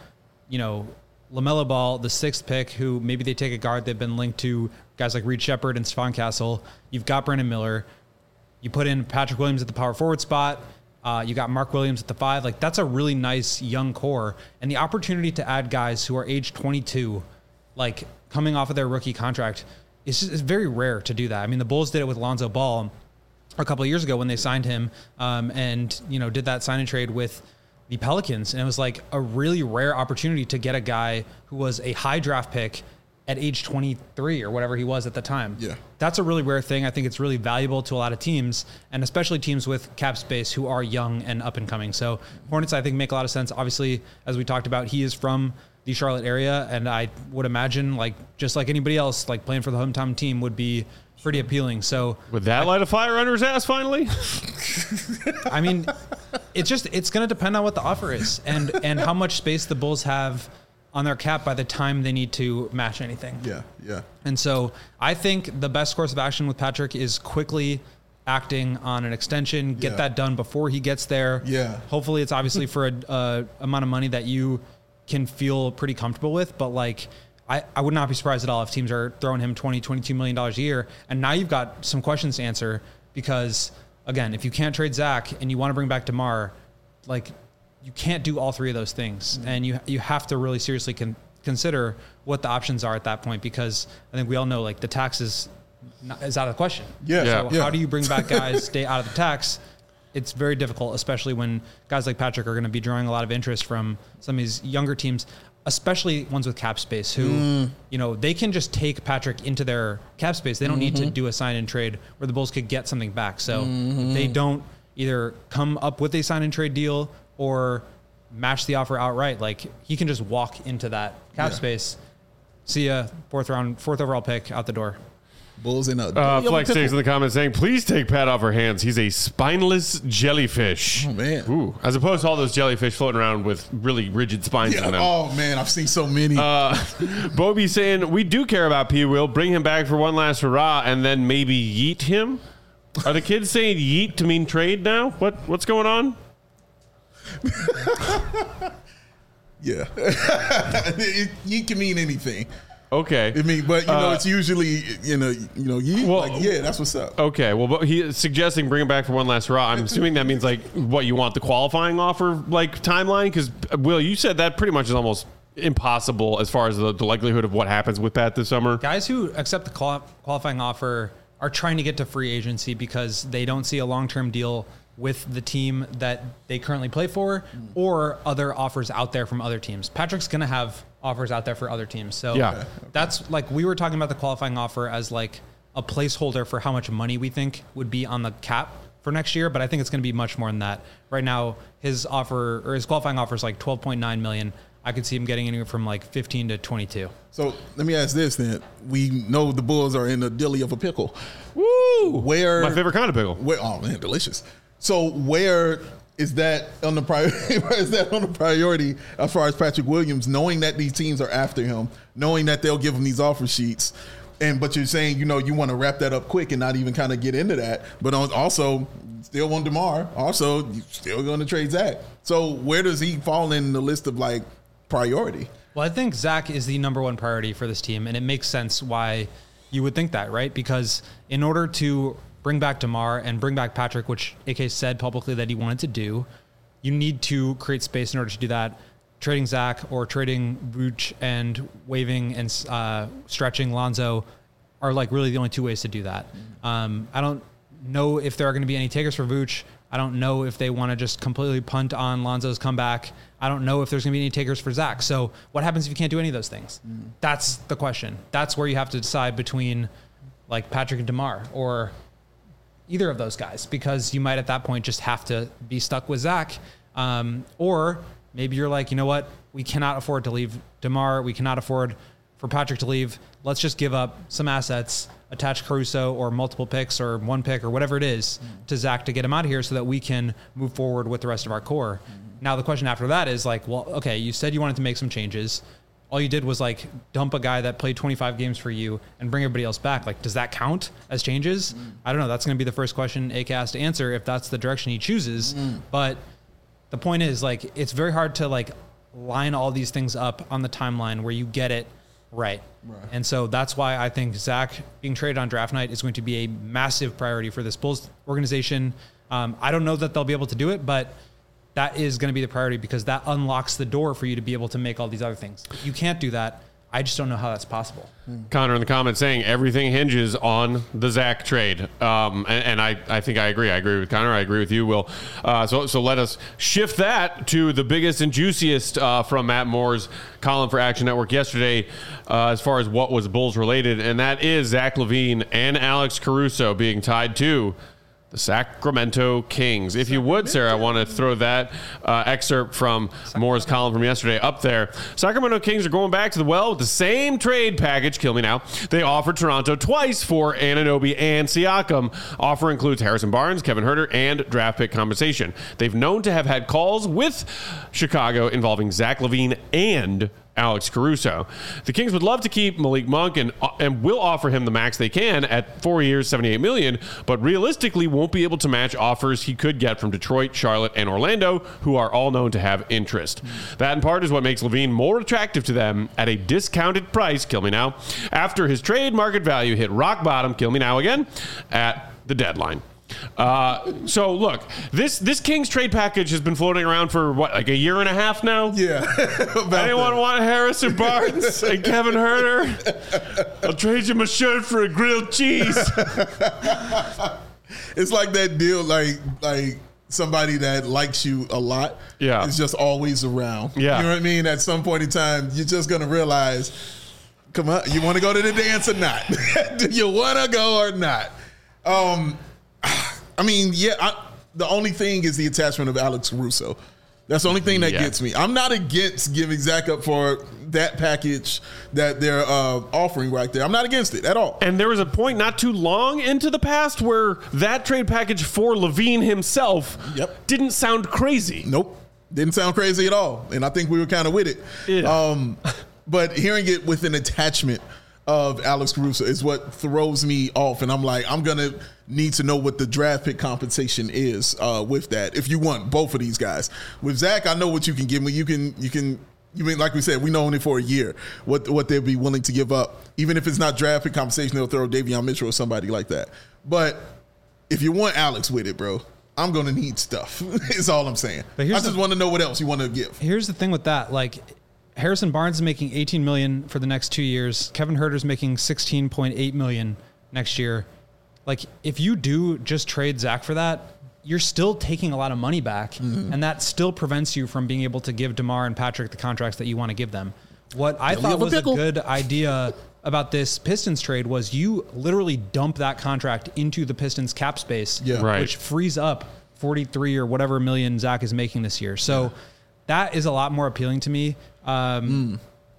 LaMelo Ball, the 6th pick, who maybe they take a guard. They've been linked to guys like Reed Shepherd and Stephon Castle. You've got Brandon Miller. You put in Patrick Williams at the power forward spot. You got Mark Williams at the 5. Like, that's a really nice young core. And the opportunity to add guys who are age 22, like coming off of their rookie contract, it's very rare to do that. I mean, the Bulls did it with Lonzo Ball a couple of years ago when they signed him and did that sign and trade with the Pelicans. And it was like a really rare opportunity to get a guy who was a high draft pick at age 23 or whatever he was at the time.
Yeah.
That's a really rare thing. I think it's really valuable to a lot of teams, and especially teams with cap space who are young and up and coming. So Hornets, I think, make a lot of sense. Obviously, as we talked about, he is from the Charlotte area, and I would imagine, like, just like anybody else, like playing for the hometown team would be pretty appealing. So
would that light a fire under his ass finally?
I mean, it's going to depend on what the offer is and how much space the Bulls have on their cap by the time they need to match anything.
Yeah.
And so I think the best course of action with Patrick is quickly acting on an extension, get that done before he gets there.
Yeah.
Hopefully it's obviously for a amount of money that you can feel pretty comfortable with, but like I would not be surprised at all if teams are throwing him $22 million a year. And now you've got some questions to answer because, again, if you can't trade Zach and you want to bring back DeMar, like, you can't do all three of those things. Mm-hmm. And you have to really seriously consider what the options are at that point, because I think we all know, like, the tax is out of the question.
Yeah.
So how do you bring back guys, stay out of the tax? It's very difficult, especially when guys like Patrick are going to be drawing a lot of interest from some of these younger teams, especially ones with cap space who, they can just take Patrick into their cap space. They don't need to do a sign and trade where the Bulls could get something back. So if they don't either come up with a sign and trade deal or match the offer outright, like, he can just walk into that cap space. See ya, fourth overall pick, out the door.
Bulls in a
Flex takes in the comments saying, please take Pat off our hands. He's a spineless jellyfish.
Oh, man.
Ooh, as opposed to all those jellyfish floating around with really rigid spines in them.
Oh, man, I've seen so many.
Bobby saying, we do care about P. Will. Bring him back for one last hurrah and then maybe yeet him. Are the kids saying yeet to mean trade now? What's going on?
Yeah. Yeet can mean anything.
Okay.
I mean, but it's usually yeet.
Well,
like, yeah, that's what's up.
Okay. Well, but he is suggesting bring him back for one last hurrah. I'm assuming that means, like, what, you want the qualifying offer, like, timeline? Because Will, you said that pretty much is almost impossible as far as the likelihood of what happens with Pat this summer.
Guys who accept the qualifying offer are trying to get to free agency because they don't see a long-term deal with the team that they currently play for or other offers out there from other teams. Patrick's going to have offers out there for other teams. So that's, like, we were talking about the qualifying offer as like a placeholder for how much money we think would be on the cap for next year. But I think it's going to be much more than that. Right now, his qualifying offer is like $12.9 million. I could see him getting anywhere from like 15 to 22.
So let me ask this then. We know the Bulls are in the dilly of a pickle.
Woo!
Where
My favorite kind of pickle.
Oh, man, delicious. So where is that on the priority as far as Patrick Williams, knowing that these teams are after him, knowing that they'll give him these offer sheets, but you're saying, you want to wrap that up quick and not even kind of get into that, but also still want DeMar, also you still going to trade Zach. So where does he fall in the list of like priority?
Well, I think Zach is the number one priority for this team, and it makes sense why you would think that, right? Because in order to bring back DeMar and bring back Patrick, which AK said publicly that he wanted to do, you need to create space in order to do that. Trading Zach or trading Vooch and waiving and stretching Lonzo are like really the only two ways to do that. I don't know if there are going to be any takers for Vooch. I don't know if they want to just completely punt on Lonzo's comeback. I don't know if there's going to be any takers for Zach. So what happens if you can't do any of those things? That's the question. That's where you have to decide between like Patrick and DeMar or either of those guys, because you might at that point just have to be stuck with Zach. Or maybe you're like, you know what? We cannot afford to leave DeMar. We cannot afford for Patrick to leave. Let's just give up some assets, attach Caruso or multiple picks or one pick or whatever it is to Zach to get him out of here so that we can move forward with the rest of our core. Now the question after that is like, well, okay, you said you wanted to make some changes. All you did was like dump a guy that played 25 games for you and bring everybody else back. Like, does that count as changes? I don't know. That's going to be the first question AK has to answer if that's the direction he chooses. But the point is, like, it's very hard to like line all these things up on the timeline where you get it right. And so that's why I think Zach being traded on draft night is going to be a massive priority for this Bulls organization. I don't know that they'll be able to do it, but that is going to be the priority because that unlocks the door for you to be able to make all these other things. If you can't do that, I just don't know how that's possible.
Connor in the comments saying everything hinges on the Zach trade. And I think I agree. I agree with Connor. I agree with you, Will. So let us shift that to the biggest and juiciest from Matt Moore's column for Action Network yesterday as far as what was Bulls related. And that is Zach LaVine and Alex Caruso being tied to the Sacramento Kings. If you would, Sarah, I want to throw that excerpt from Moore's column from yesterday up there. Sacramento Kings are going back to the well with the same trade package, kill me now, they offered Toronto twice for Anunoby and Siakam. Offer includes Harrison Barnes, Kevin Huerter, and draft pick compensation. They've known to have had calls with Chicago involving Zach LaVine and Alex Caruso. The Kings would love to keep Malik Monk and will offer him the max they can at 4 years, $78 million, but realistically won't be able to match offers he could get from Detroit, Charlotte, and Orlando, who are all known to have interest. That in part is what makes LaVine more attractive to them at a discounted price, kill me now, after his trade market value hit rock bottom, kill me now again, at the deadline. So look, this Kings trade package has been floating around for what, like a year and a half now?
Yeah.
Anyone want Harrison Barnes and Kevin Huerter? I'll trade you my shirt for a grilled cheese.
It's like that deal, like somebody that likes you a lot is just always around.
Yeah.
You know what I mean? At some point in time, you're just going to realize, come on, you want to go to the dance or not? Do you want to go or not? I mean, the only thing is the attachment of Alex Caruso. That's the only thing that gets me. I'm not against giving Zach up for that package that they're offering right there. I'm not against it at all.
And there was a point not too long into the past where that trade package for LaVine himself didn't sound crazy.
Nope. Didn't sound crazy at all. And I think we were kind of with it. Yeah. But hearing it with an attachment of Alex Caruso is what throws me off. And I'm like, I'm going to need to know what the draft pick compensation is with that. If you want both of these guys. With Zach, I know what you can give me. You mean, like we said, we know only for a year what they'll be willing to give up. Even if it's not draft pick compensation, they'll throw Davion Mitchell or somebody like that. But if you want Alex with it, bro, I'm going to need stuff. Is all I'm saying. But I just want to know what else you want to give.
Here's the thing with that. Like, Harrison Barnes is making $18 million for the next 2 years. Kevin Huerter is making $16.8 million next year. Like, if you do just trade Zach for that, you're still taking a lot of money back, and that still prevents you from being able to give DeMar and Patrick the contracts that you want to give them. What I thought was a good idea about this Pistons trade was you literally dump that contract into the Pistons cap space, which frees up 43 or whatever million Zach is making this year. So that is a lot more appealing to me.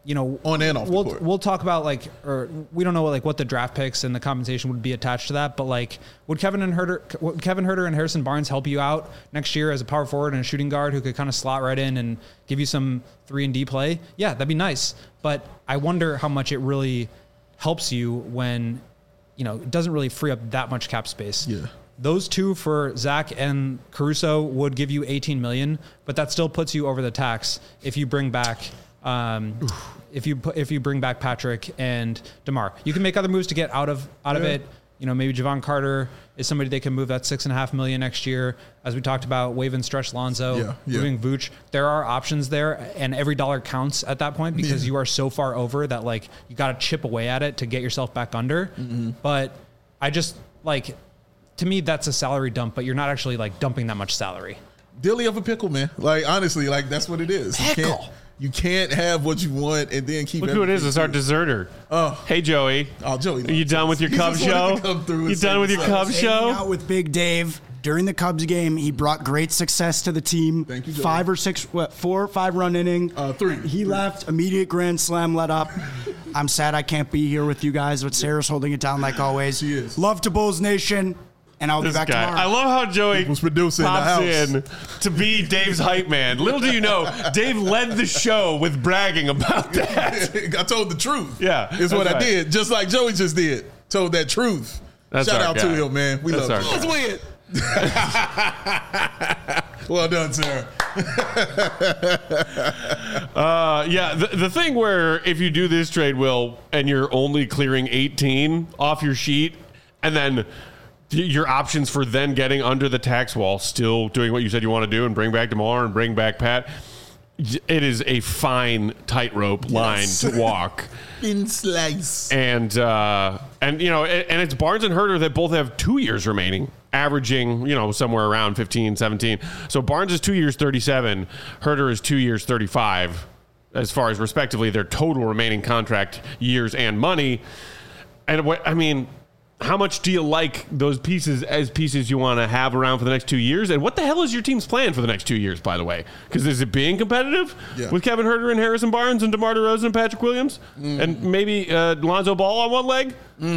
on and off the court.
We'll talk about or we don't know what the draft picks and the compensation would be attached to that, but would Kevin Huerter and Harrison Barnes help you out next year as a power forward and a shooting guard who could kind of slot right in and give you some 3-and-D play? Yeah, that'd be nice. But I wonder how much it really helps you when, it doesn't really free up that much cap space.
Yeah.
Those two for Zach and Caruso would give you $18 million, but that still puts you over the tax if you bring back if you bring back Patrick and DeMar. You can make other moves to get out of it. Maybe Javon Carter is somebody they can move at $6.5 million next year. As we talked about, waive and stretch Lonzo, moving Vooch. There are options there, and every dollar counts at that point because you are so far over that you got to chip away at it to get yourself back under. Mm-hmm. But I just to me that's a salary dump, but you're not actually dumping that much salary.
Dilly of a pickle, man. Honestly, that's what it is.
Pickle.
You can't have what you want and then keep.
Look who it is. It's our deserter.
Oh,
hey Joey.
Oh, Joey.
Are you done with your Cubs show? You done with your Cubs show?
Out with Big Dave during the Cubs game. He brought great success to the team.
Thank you, Joey.
4 or 5 run inning.
3.
He left. Immediate grand slam let up. I'm sad I can't be here with you guys, but Sarah's holding it down like always.
She is.
Love to Bulls Nation. And I'll be back tomorrow.
I love how Joey
was producing
pops
the house.
in to be Dave's hype man. Little do you know, Dave led the show with bragging about that.
I told the truth.
Yeah,
is what I did. Just like Joey just did. Told that truth.
That's
Shout
our
out
guy.
to him, man. We love him.
Let's
win. Well done, Sarah.
The thing where if you do this trade, Will, and you're only clearing 18 off your sheet, and then your options for then getting under the tax wall, still doing what you said you want to do and bring back DeMar and bring back Pat, it is a fine tightrope line to walk.
Thin slice.
And it's Barnes and Huerter that both have 2 years remaining, averaging, somewhere around 15, 17. So Barnes is 2 years, 37. Huerter is 2 years, 35, as far as respectively their total remaining contract years and money. And how much do you like those pieces as pieces you want to have around for the next 2 years? And what the hell is your team's plan for the next 2 years, by the way? Because is it being competitive with Kevin Huerter and Harrison Barnes and DeMar DeRozan and Patrick Williams? And maybe Lonzo Ball on one leg?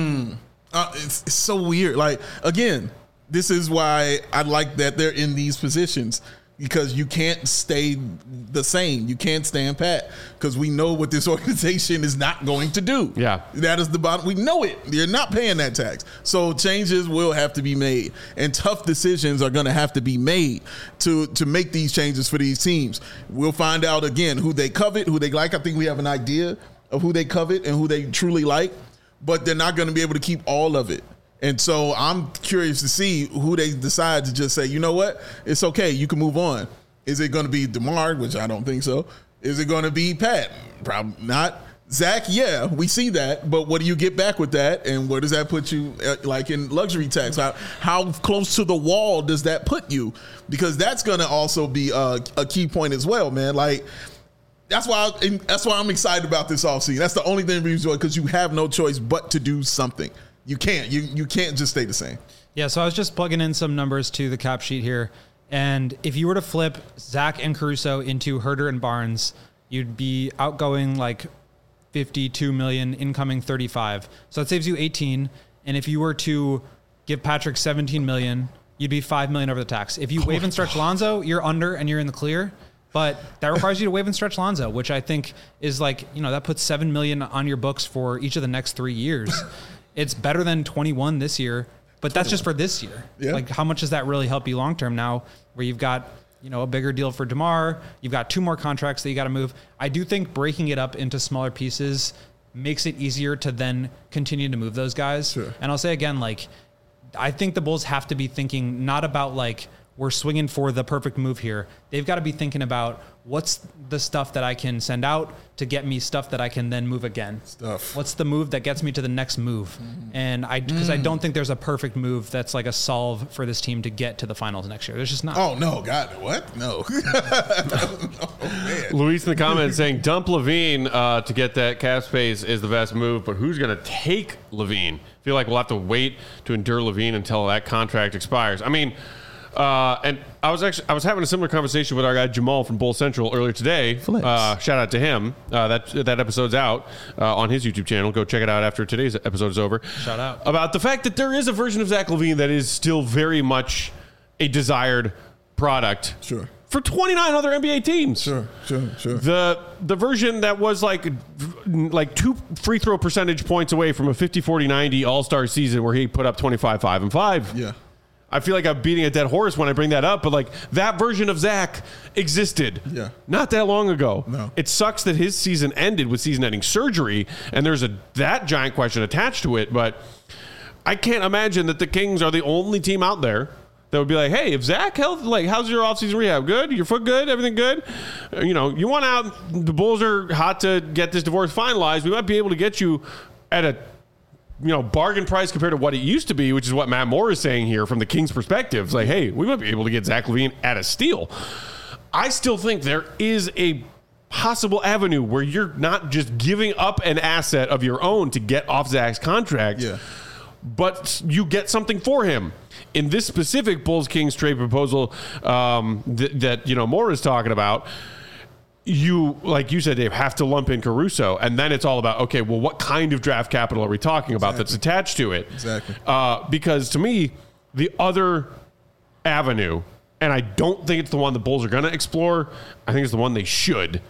It's so weird. Again, this is why I like that they're in these positions. Because you can't stay the same. You can't stand pat. Because we know what this organization is not going to do.
Yeah.
That is the bottom. We know it. You're not paying that tax. So changes will have to be made. And tough decisions are going to have to be made to make these changes for these teams. We'll find out, again, who they covet, who they like. I think we have an idea of who they covet and who they truly like. But they're not going to be able to keep all of it. And so I'm curious to see who they decide to just say, you know what, it's okay, you can move on. Is it going to be DeMar, which I don't think so? Is it going to be Pat? Probably not. Zach, yeah, we see that, but what do you get back with that, and where does that put you, in luxury tax? How close to the wall does that put you? Because that's going to also be a key point as well, man. That's why I'm excited about this offseason. That's the only thing we enjoy, because you have no choice but to do something. You can't. You can't just stay the same.
Yeah, so I was just plugging in some numbers to the cap sheet here. And if you were to flip Zach and Caruso into Huerter and Barnes, you'd be outgoing 52 million, incoming 35. So that saves you 18. And if you were to give Patrick 17 million, you'd be 5 million over the tax. If you waive and stretch Lonzo, you're under and you're in the clear. But that requires you to waive and stretch Lonzo, which I think is that puts 7 million on your books for each of the next 3 years. It's better than 21 this year, but that's just for this year.
Yeah.
How much does that really help you long term now where you've got, a bigger deal for DeMar, you've got 2 more contracts that you got to move. I do think breaking it up into smaller pieces makes it easier to then continue to move those guys.
Sure.
And I'll say again, I think the Bulls have to be thinking not about we're swinging for the perfect move here. They've got to be thinking about what's the stuff that I can send out to get me stuff that I can then move again. What's the move that gets me to the next move? And because I don't think there's a perfect move that's a solve for this team to get to the finals next year. There's just not.
Oh, no. God, what? No. Man.
Luis in the comments saying dump Levine to get that cap space is the best move, but who's going to take Levine? I feel like we'll have to wait to endure Levine until that contract expires. And I was having a similar conversation with our guy Jamal from Bull Central earlier today. Shout out to him. That episode's out on his YouTube channel. Go check it out after today's episode is over.
Shout out.
About the fact that there is a version of Zach LaVine that is still very much a desired product.
Sure.
For 29 other NBA teams.
Sure.
The version that was like 2 free throw percentage points away from a 50-40-90 All-Star season where he put up 25, 5, and 5.
Yeah.
I feel like I'm beating a dead horse when I bring that up, but like that version of Zach existed not that long ago.
No.
It sucks that his season ended with season-ending surgery, and there's that giant question attached to it, but I can't imagine that the Kings are the only team out there that would be like, hey, if Zach health, like, how's your offseason rehab? Good? Your foot good? Everything good? You want out. The Bulls are hot to get this divorce finalized. We might be able to get you at a bargain price compared to what it used to be, which is what Matt Moore is saying here from the Kings' perspective. It's like, hey, we might be able to get Zach LaVine at a steal. I still think there is a possible avenue where you're not just giving up an asset of your own to get off Zach's contract, but you get something for him. In this specific Bulls-Kings trade proposal that Moore is talking about, you, like you said, Dave, have to lump in Caruso, and then it's all about, okay, well, what kind of draft capital are we talking about that's attached to it?
Exactly.
Because to me, the other avenue, and I don't think it's the one the Bulls are going to explore, I think it's the one they should,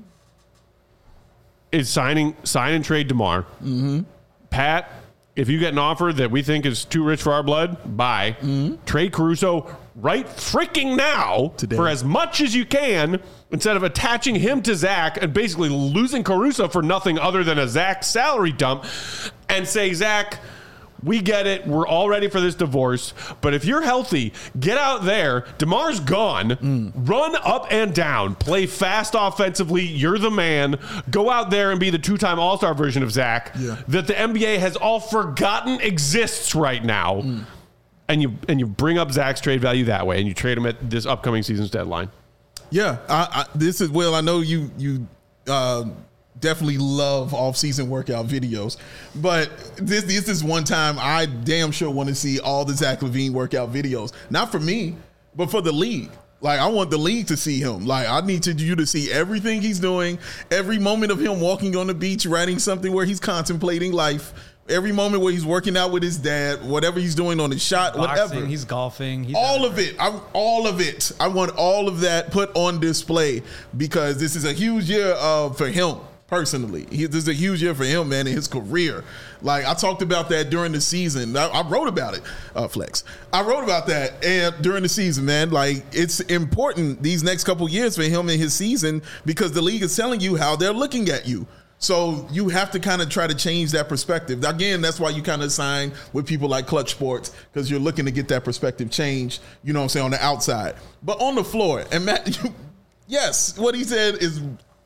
is sign and trade DeMar. Mm-hmm. Pat, if you get an offer that we think is too rich for our blood, buy. Mm-hmm. Trade Caruso right freaking now for as much as you can, instead of attaching him to Zach and basically losing Caruso for nothing other than a Zach salary dump, and say, Zach, we get it. We're all ready for this divorce. But if you're healthy, get out there. DeMar's gone. Run up and down. Play fast offensively. You're the man. Go out there and be the 2-time All-Star version of Zach that the NBA has all forgotten exists right now. And you bring up Zach's trade value that way, and you trade him at this upcoming season's deadline.
Yeah, this is, Will, I know you definitely love off-season workout videos, but this is one time I damn sure want to see all the Zach LaVine workout videos. Not for me, but for the league. Like, I want the league to see him. Like, I need you to see everything he's doing, every moment of him walking on the beach, writing something where he's contemplating life, every moment where he's working out with his dad, whatever he's doing on his shot,
boxing,
whatever.
He's golfing.
All of it. All of it. I want all of that put on display because this is a huge year for him. Personally, this is a huge year for him, man, in his career. Like, I talked about that during the season. I wrote about it, Flex. I wrote about that during the season, man. Like, it's important these next couple years for him in his season because the league is telling you how they're looking at you. So you have to kind of try to change that perspective. Again, that's why you kind of sign with people like Clutch Sports, because you're looking to get that perspective change, you know what I'm saying, on the outside. But on the floor, and Matt, yes, what he said is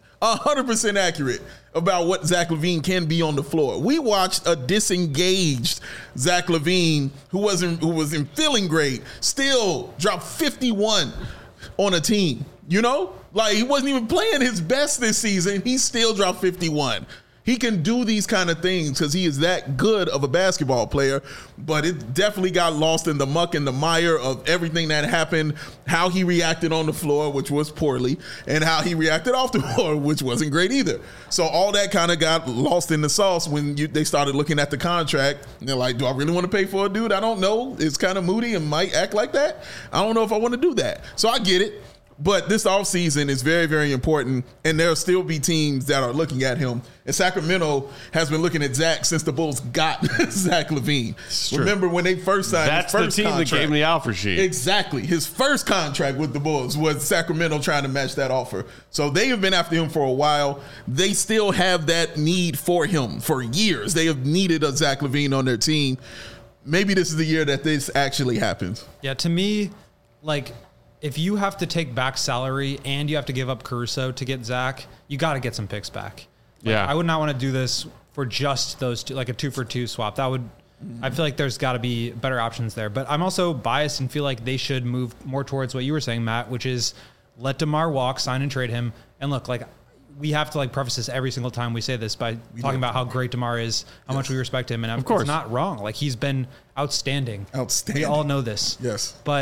100% accurate about what Zach LaVine can be on the floor. We watched a disengaged Zach LaVine who wasn't feeling great, still dropped 51 on a team. Like, he wasn't even playing his best this season. He still dropped 51. He can do these kind of things because he is that good of a basketball player, but it definitely got lost in the muck and the mire of everything that happened, how he reacted on the floor, which was poorly, and how he reacted off the floor, which wasn't great either. So all that kind of got lost in the sauce when they started looking at the contract. And they're like, do I really want to pay for a dude? I don't know. It's kind of moody and might act like that. I don't know if I want to do that. So I get it. But this offseason is very, very important, and there'll still be teams that are looking at him. And Sacramento has been looking at Zach since the Bulls got Zach LaVine. Remember when they first signed his first
the team
contract,
that gave him the offer sheet.
Exactly. His first contract with the Bulls was Sacramento trying to match that offer. So they have been after him for a while. They still have that need for him for years. They have needed a Zach LaVine on their team. Maybe this is the year that this actually happens.
Yeah, to me, like, if you have to take back salary and you have to give up Caruso to get Zach, you got to get some picks back. Like, I would not want to do this for just those two, like a 2-for-2 swap. I feel like there's got to be better options there. But I'm also biased and feel like they should move more towards what you were saying, Matt, which is let DeMar walk, sign and trade him. And look, like, we have to like preface this every single time we say this by talking about how great DeMar is, how much we respect him. And of course, it's not wrong. Like, he's been outstanding. We all know this.
Yes.
But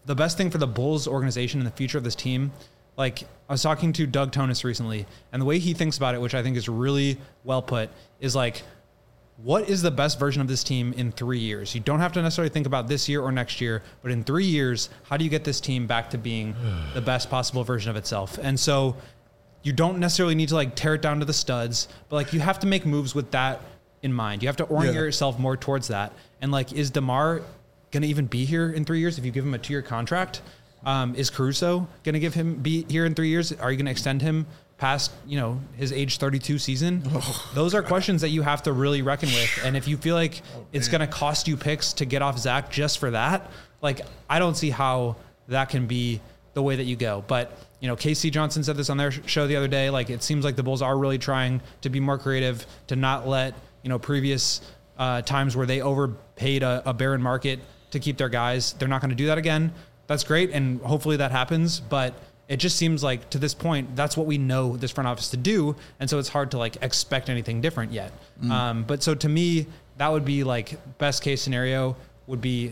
the best thing for the Bulls organization and the future of this team, like I was talking to Doug Tonis recently, and the way he thinks about it, which I think is really well put, is like, what is the best version of this team in 3 years? You don't have to necessarily think about this year or next year, but in 3 years, how do you get this team back to being the best possible version of itself? And so you don't necessarily need to like tear it down to the studs, but like you have to make moves with that in mind. You have to orient yourself more towards that. And like, is DeMar going to even be here in 3 years if you give him a 2-year contract? Is Caruso going to be here in 3 years? Are you going to extend him past, his age 32 season? Those are questions that you have to really reckon with. And if you feel like it's going to cost you picks to get off Zach just for that, like, I don't see how that can be the way that you go. But, Casey Johnson said this on their show the other day. Like, it seems like the Bulls are really trying to be more creative, to not let, previous times where they overpaid a barren market to keep their guys. They're not going to do that again. That's great. And hopefully that happens. But it just seems like to this point, that's what we know this front office to do. And so it's hard to like expect anything different yet. But so to me, that would be like best case scenario would be,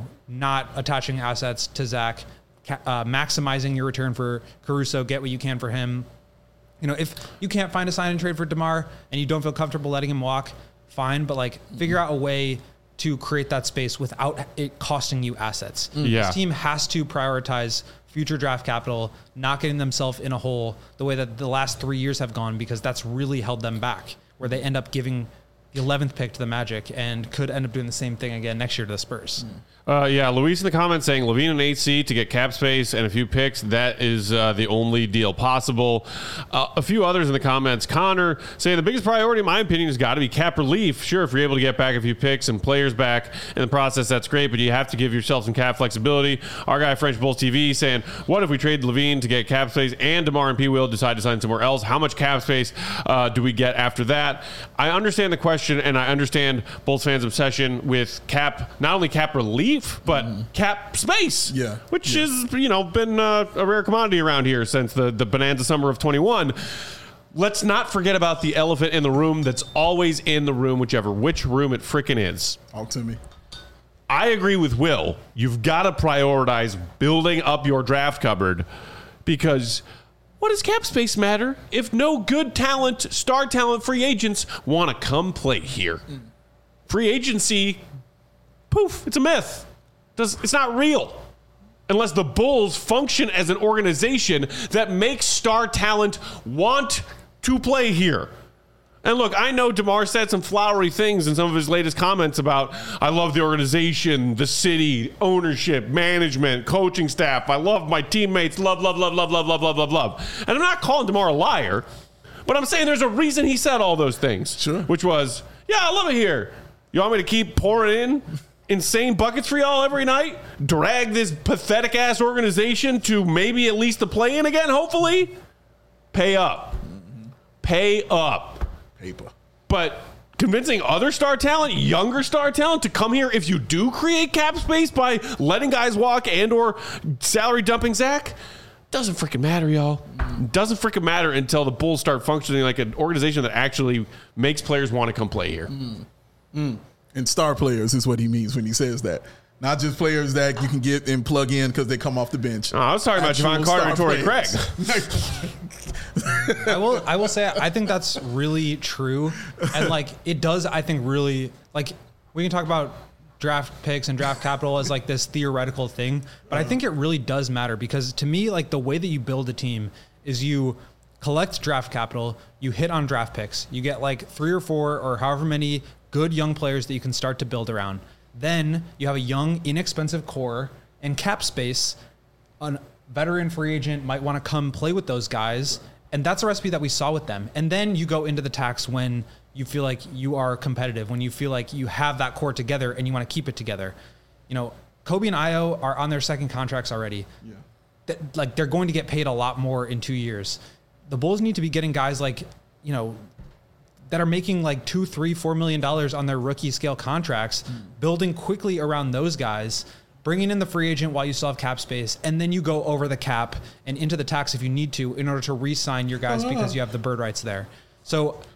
not attaching assets to Zach, maximizing your return for Caruso, get what you can for him. If you can't find a sign and trade for DeMar and you don't feel comfortable letting him walk, fine. But like figure out a way to create that space without it costing you assets. This team has to prioritize future draft capital, not getting themselves in a hole the way that the last 3 years have gone, because that's really held them back, where they end up giving the 11th pick to the Magic and could end up doing the same thing again next year to the Spurs.
Luis in the comments saying LaVine and AC to get cap space and a few picks. That is the only deal possible. A few others in the comments. Connor saying the biggest priority, in my opinion, has got to be cap relief. Sure, if you're able to get back a few picks and players back in the process, that's great, but you have to give yourself some cap flexibility. Our guy, French Bulls TV, saying, what if we trade LaVine to get cap space and DeMar and P. Will decide to sign somewhere else? How much cap space do we get after that? I understand the question, and I understand Bulls fans' obsession with cap, not only cap relief, but cap space, which has been a rare commodity around here since the bonanza summer of 21. Let's not forget about the elephant in the room that's always in the room, which room it frickin' is.
Talk to me.
I agree with Will. You've got to prioritize building up your draft cupboard, because what does cap space matter if no good talent, star talent, free agents want to come play here? Free agency, poof, it's a myth. It's not real unless the Bulls function as an organization that makes star talent want to play here. And look, I know DeMar said some flowery things in some of his latest comments about, I love the organization, the city, ownership, management, coaching staff. I love my teammates. Love. And I'm not calling DeMar a liar, but I'm saying there's a reason he said all those things.
Sure.
Which was, I love it here. You want me to keep pouring in insane buckets for y'all every night? Drag this pathetic ass organization to maybe at least the play-in again, hopefully? Pay up. Pay up.
Paper.
But convincing other star talent, younger star talent, to come here if you do create cap space by letting guys walk and or salary dumping Zach, doesn't freaking matter, y'all. Doesn't freaking matter until the Bulls start functioning like an organization that actually makes players want to come play here.
And star players is what he means when he says that. Not just players that you can get and plug in because they come off the bench.
Oh, I was talking about Javon Carter and Torrey Craig.
I will say, I think that's really true. And like, it does, I think, really, like, we can talk about draft picks and draft capital as like this theoretical thing, but I think it really does matter, because to me, like, the way that you build a team is you collect draft capital, you hit on draft picks, you get like 3 or 4 or however many good young players that you can start to build around. Then you have a young, inexpensive core and cap space. A veteran free agent might want to come play with those guys. And that's a recipe that we saw with them. And then you go into the tax when you feel like you are competitive, when you feel like you have that core together and you want to keep it together. Kobe and Ayo are on their second contracts already. They're going to get paid a lot more in 2 years. The Bulls need to be getting guys like, that are making like $2, $3, $4 million on their rookie scale contracts, building quickly around those guys, bringing in the free agent while you still have cap space, and then you go over the cap and into the tax if you need to in order to re-sign your guys because you have the bird rights there. So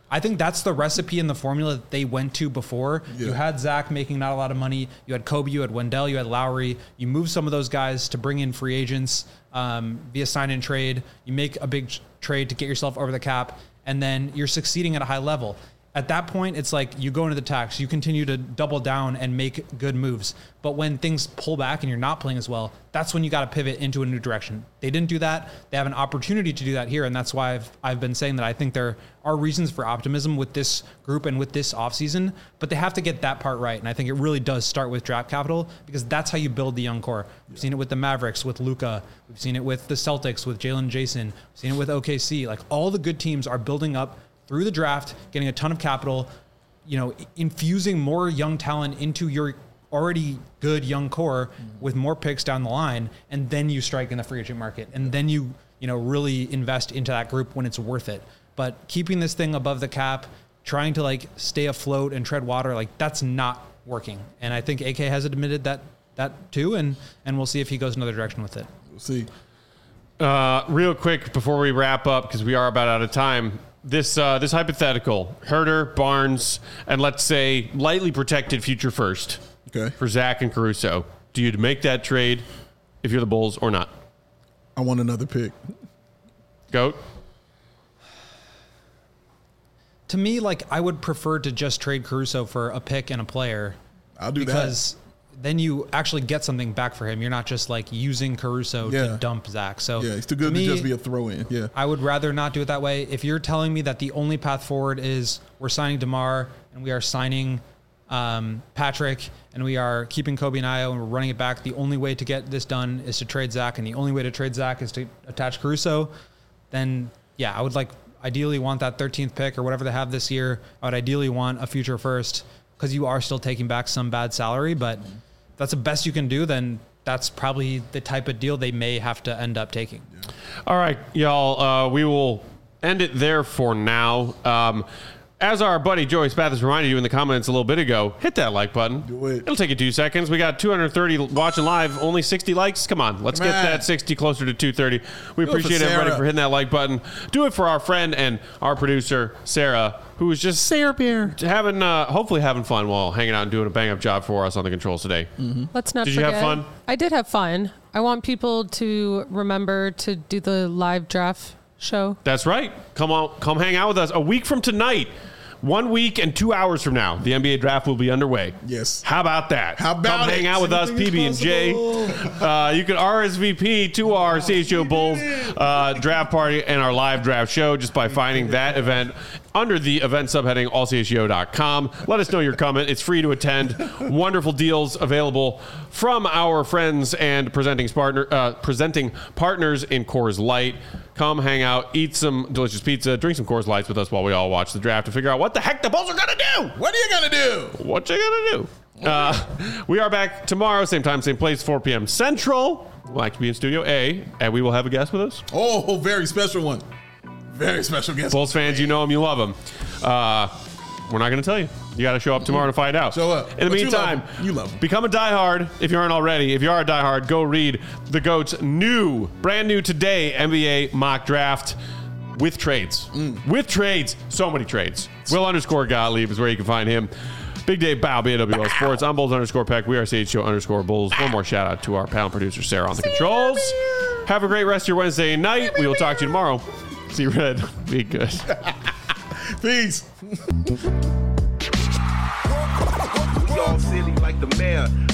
I think that's the recipe and the formula that they went to before.
Yeah.
You had Zach making not a lot of money. You had Kobe, you had Wendell, you had Lowry. You moved some of those guys to bring in free agents via sign and trade. You make a big trade to get yourself over the cap, and then you're succeeding at a high level. At that point, it's like you go into the tax, you continue to double down and make good moves. But when things pull back and you're not playing as well, that's when you got to pivot into a new direction. They didn't do that. They have an opportunity to do that here. And that's why I've been saying that I think there are reasons for optimism with this group and with this offseason, but they have to get that part right. And I think it really does start with draft capital, because that's how you build the young core. We've seen it with the Mavericks, with Luka. We've seen it with the Celtics, with Jalen Jason. We've seen it with OKC. Like, all the good teams are building up through the draft, getting a ton of capital, infusing more young talent into your already good young core with more picks down the line, and then you strike in the free agent market, and then you really invest into that group when it's worth it. But keeping this thing above the cap, trying to stay afloat and tread water, that's not working. And I think AK has admitted that too, and we'll see if he goes another direction with it.
We'll see.
Real quick before we wrap up, because we are about out of time. This hypothetical, Herter, Barnes, and let's say lightly protected future first for Zach and Caruso. Do you make that trade if you're the Bulls or not?
I want another pick.
Goat?
To me, I would prefer to just trade Caruso for a pick and a player.
I'll do that.
Because then you actually get something back for him. You're not just using Caruso to dump Zach. So
yeah, it's too good to just be a throw-in. Yeah,
I would rather not do it that way. If you're telling me that the only path forward is we're signing DeMar and we are signing Patrick and we are keeping Kobe and Ayo and we're running it back, the only way to get this done is to trade Zach, and the only way to trade Zach is to attach Caruso, then yeah, I would ideally want that 13th pick or whatever they have this year. I would ideally want a future first, because you are still taking back some bad salary, but if that's the best you can do, then that's probably the type of deal they may have to end up taking.
Yeah. All right, y'all, we will end it there for now. As our buddy Joey Spathis reminded you in the comments a little bit ago, hit that like button.
Do it.
It'll take you 2 seconds. We got 230 watching live, only 60 likes. Come on, let's get that 60 closer to 230. We appreciate everybody for hitting that like button. Do it for our friend and our producer, Sarah, who is just hopefully having fun while hanging out and doing a bang-up job for us on the controls today.
Mm-hmm. Let's not
forget.
Did
you have fun?
I did have fun. I want people to remember to do the live draft show.
That's right. Come hang out with us a week from tonight. 1 week and 2 hours from now, the NBA draft will be underway.
Yes.
How about that?
How about
Come hang out with us, PB and J. You can RSVP to our CHO Bulls draft party and our live draft show just by finding that event under the event subheading allcho.com. Let us know you're coming. It's free to attend. Wonderful deals available from our friends and presenting partners in Coors Light. Come hang out, eat some delicious pizza, drink some Coors Lights with us while we all watch the draft to figure out what the heck the Bulls are going to do.
What are you going to do?
What you going to do? We are back tomorrow, same time, same place, 4 p.m. Central. We'll actually be in Studio A, and we will have a guest with us.
Oh, very special one. Very special guest.
Bulls fans, you know him, you love him. We're not going to tell you. You got to show up tomorrow to find out.
Show up.
In the meantime,
you love him.
Become a diehard if you aren't already. If you are a diehard, go read the GOAT's brand new today NBA mock draft with trades. With trades. So many trades. Will_Gottlieb is where you can find him. Big Dave Bow, BWL Sports. I'm Bulls_Peck. We are CHO_Bulls. One more shout out to our panel producer, Sarah, on the controls. Have a great rest of your Wednesday night. We will talk to you tomorrow. See you, Red. Be good.
Peace.
We all silly like the mayor.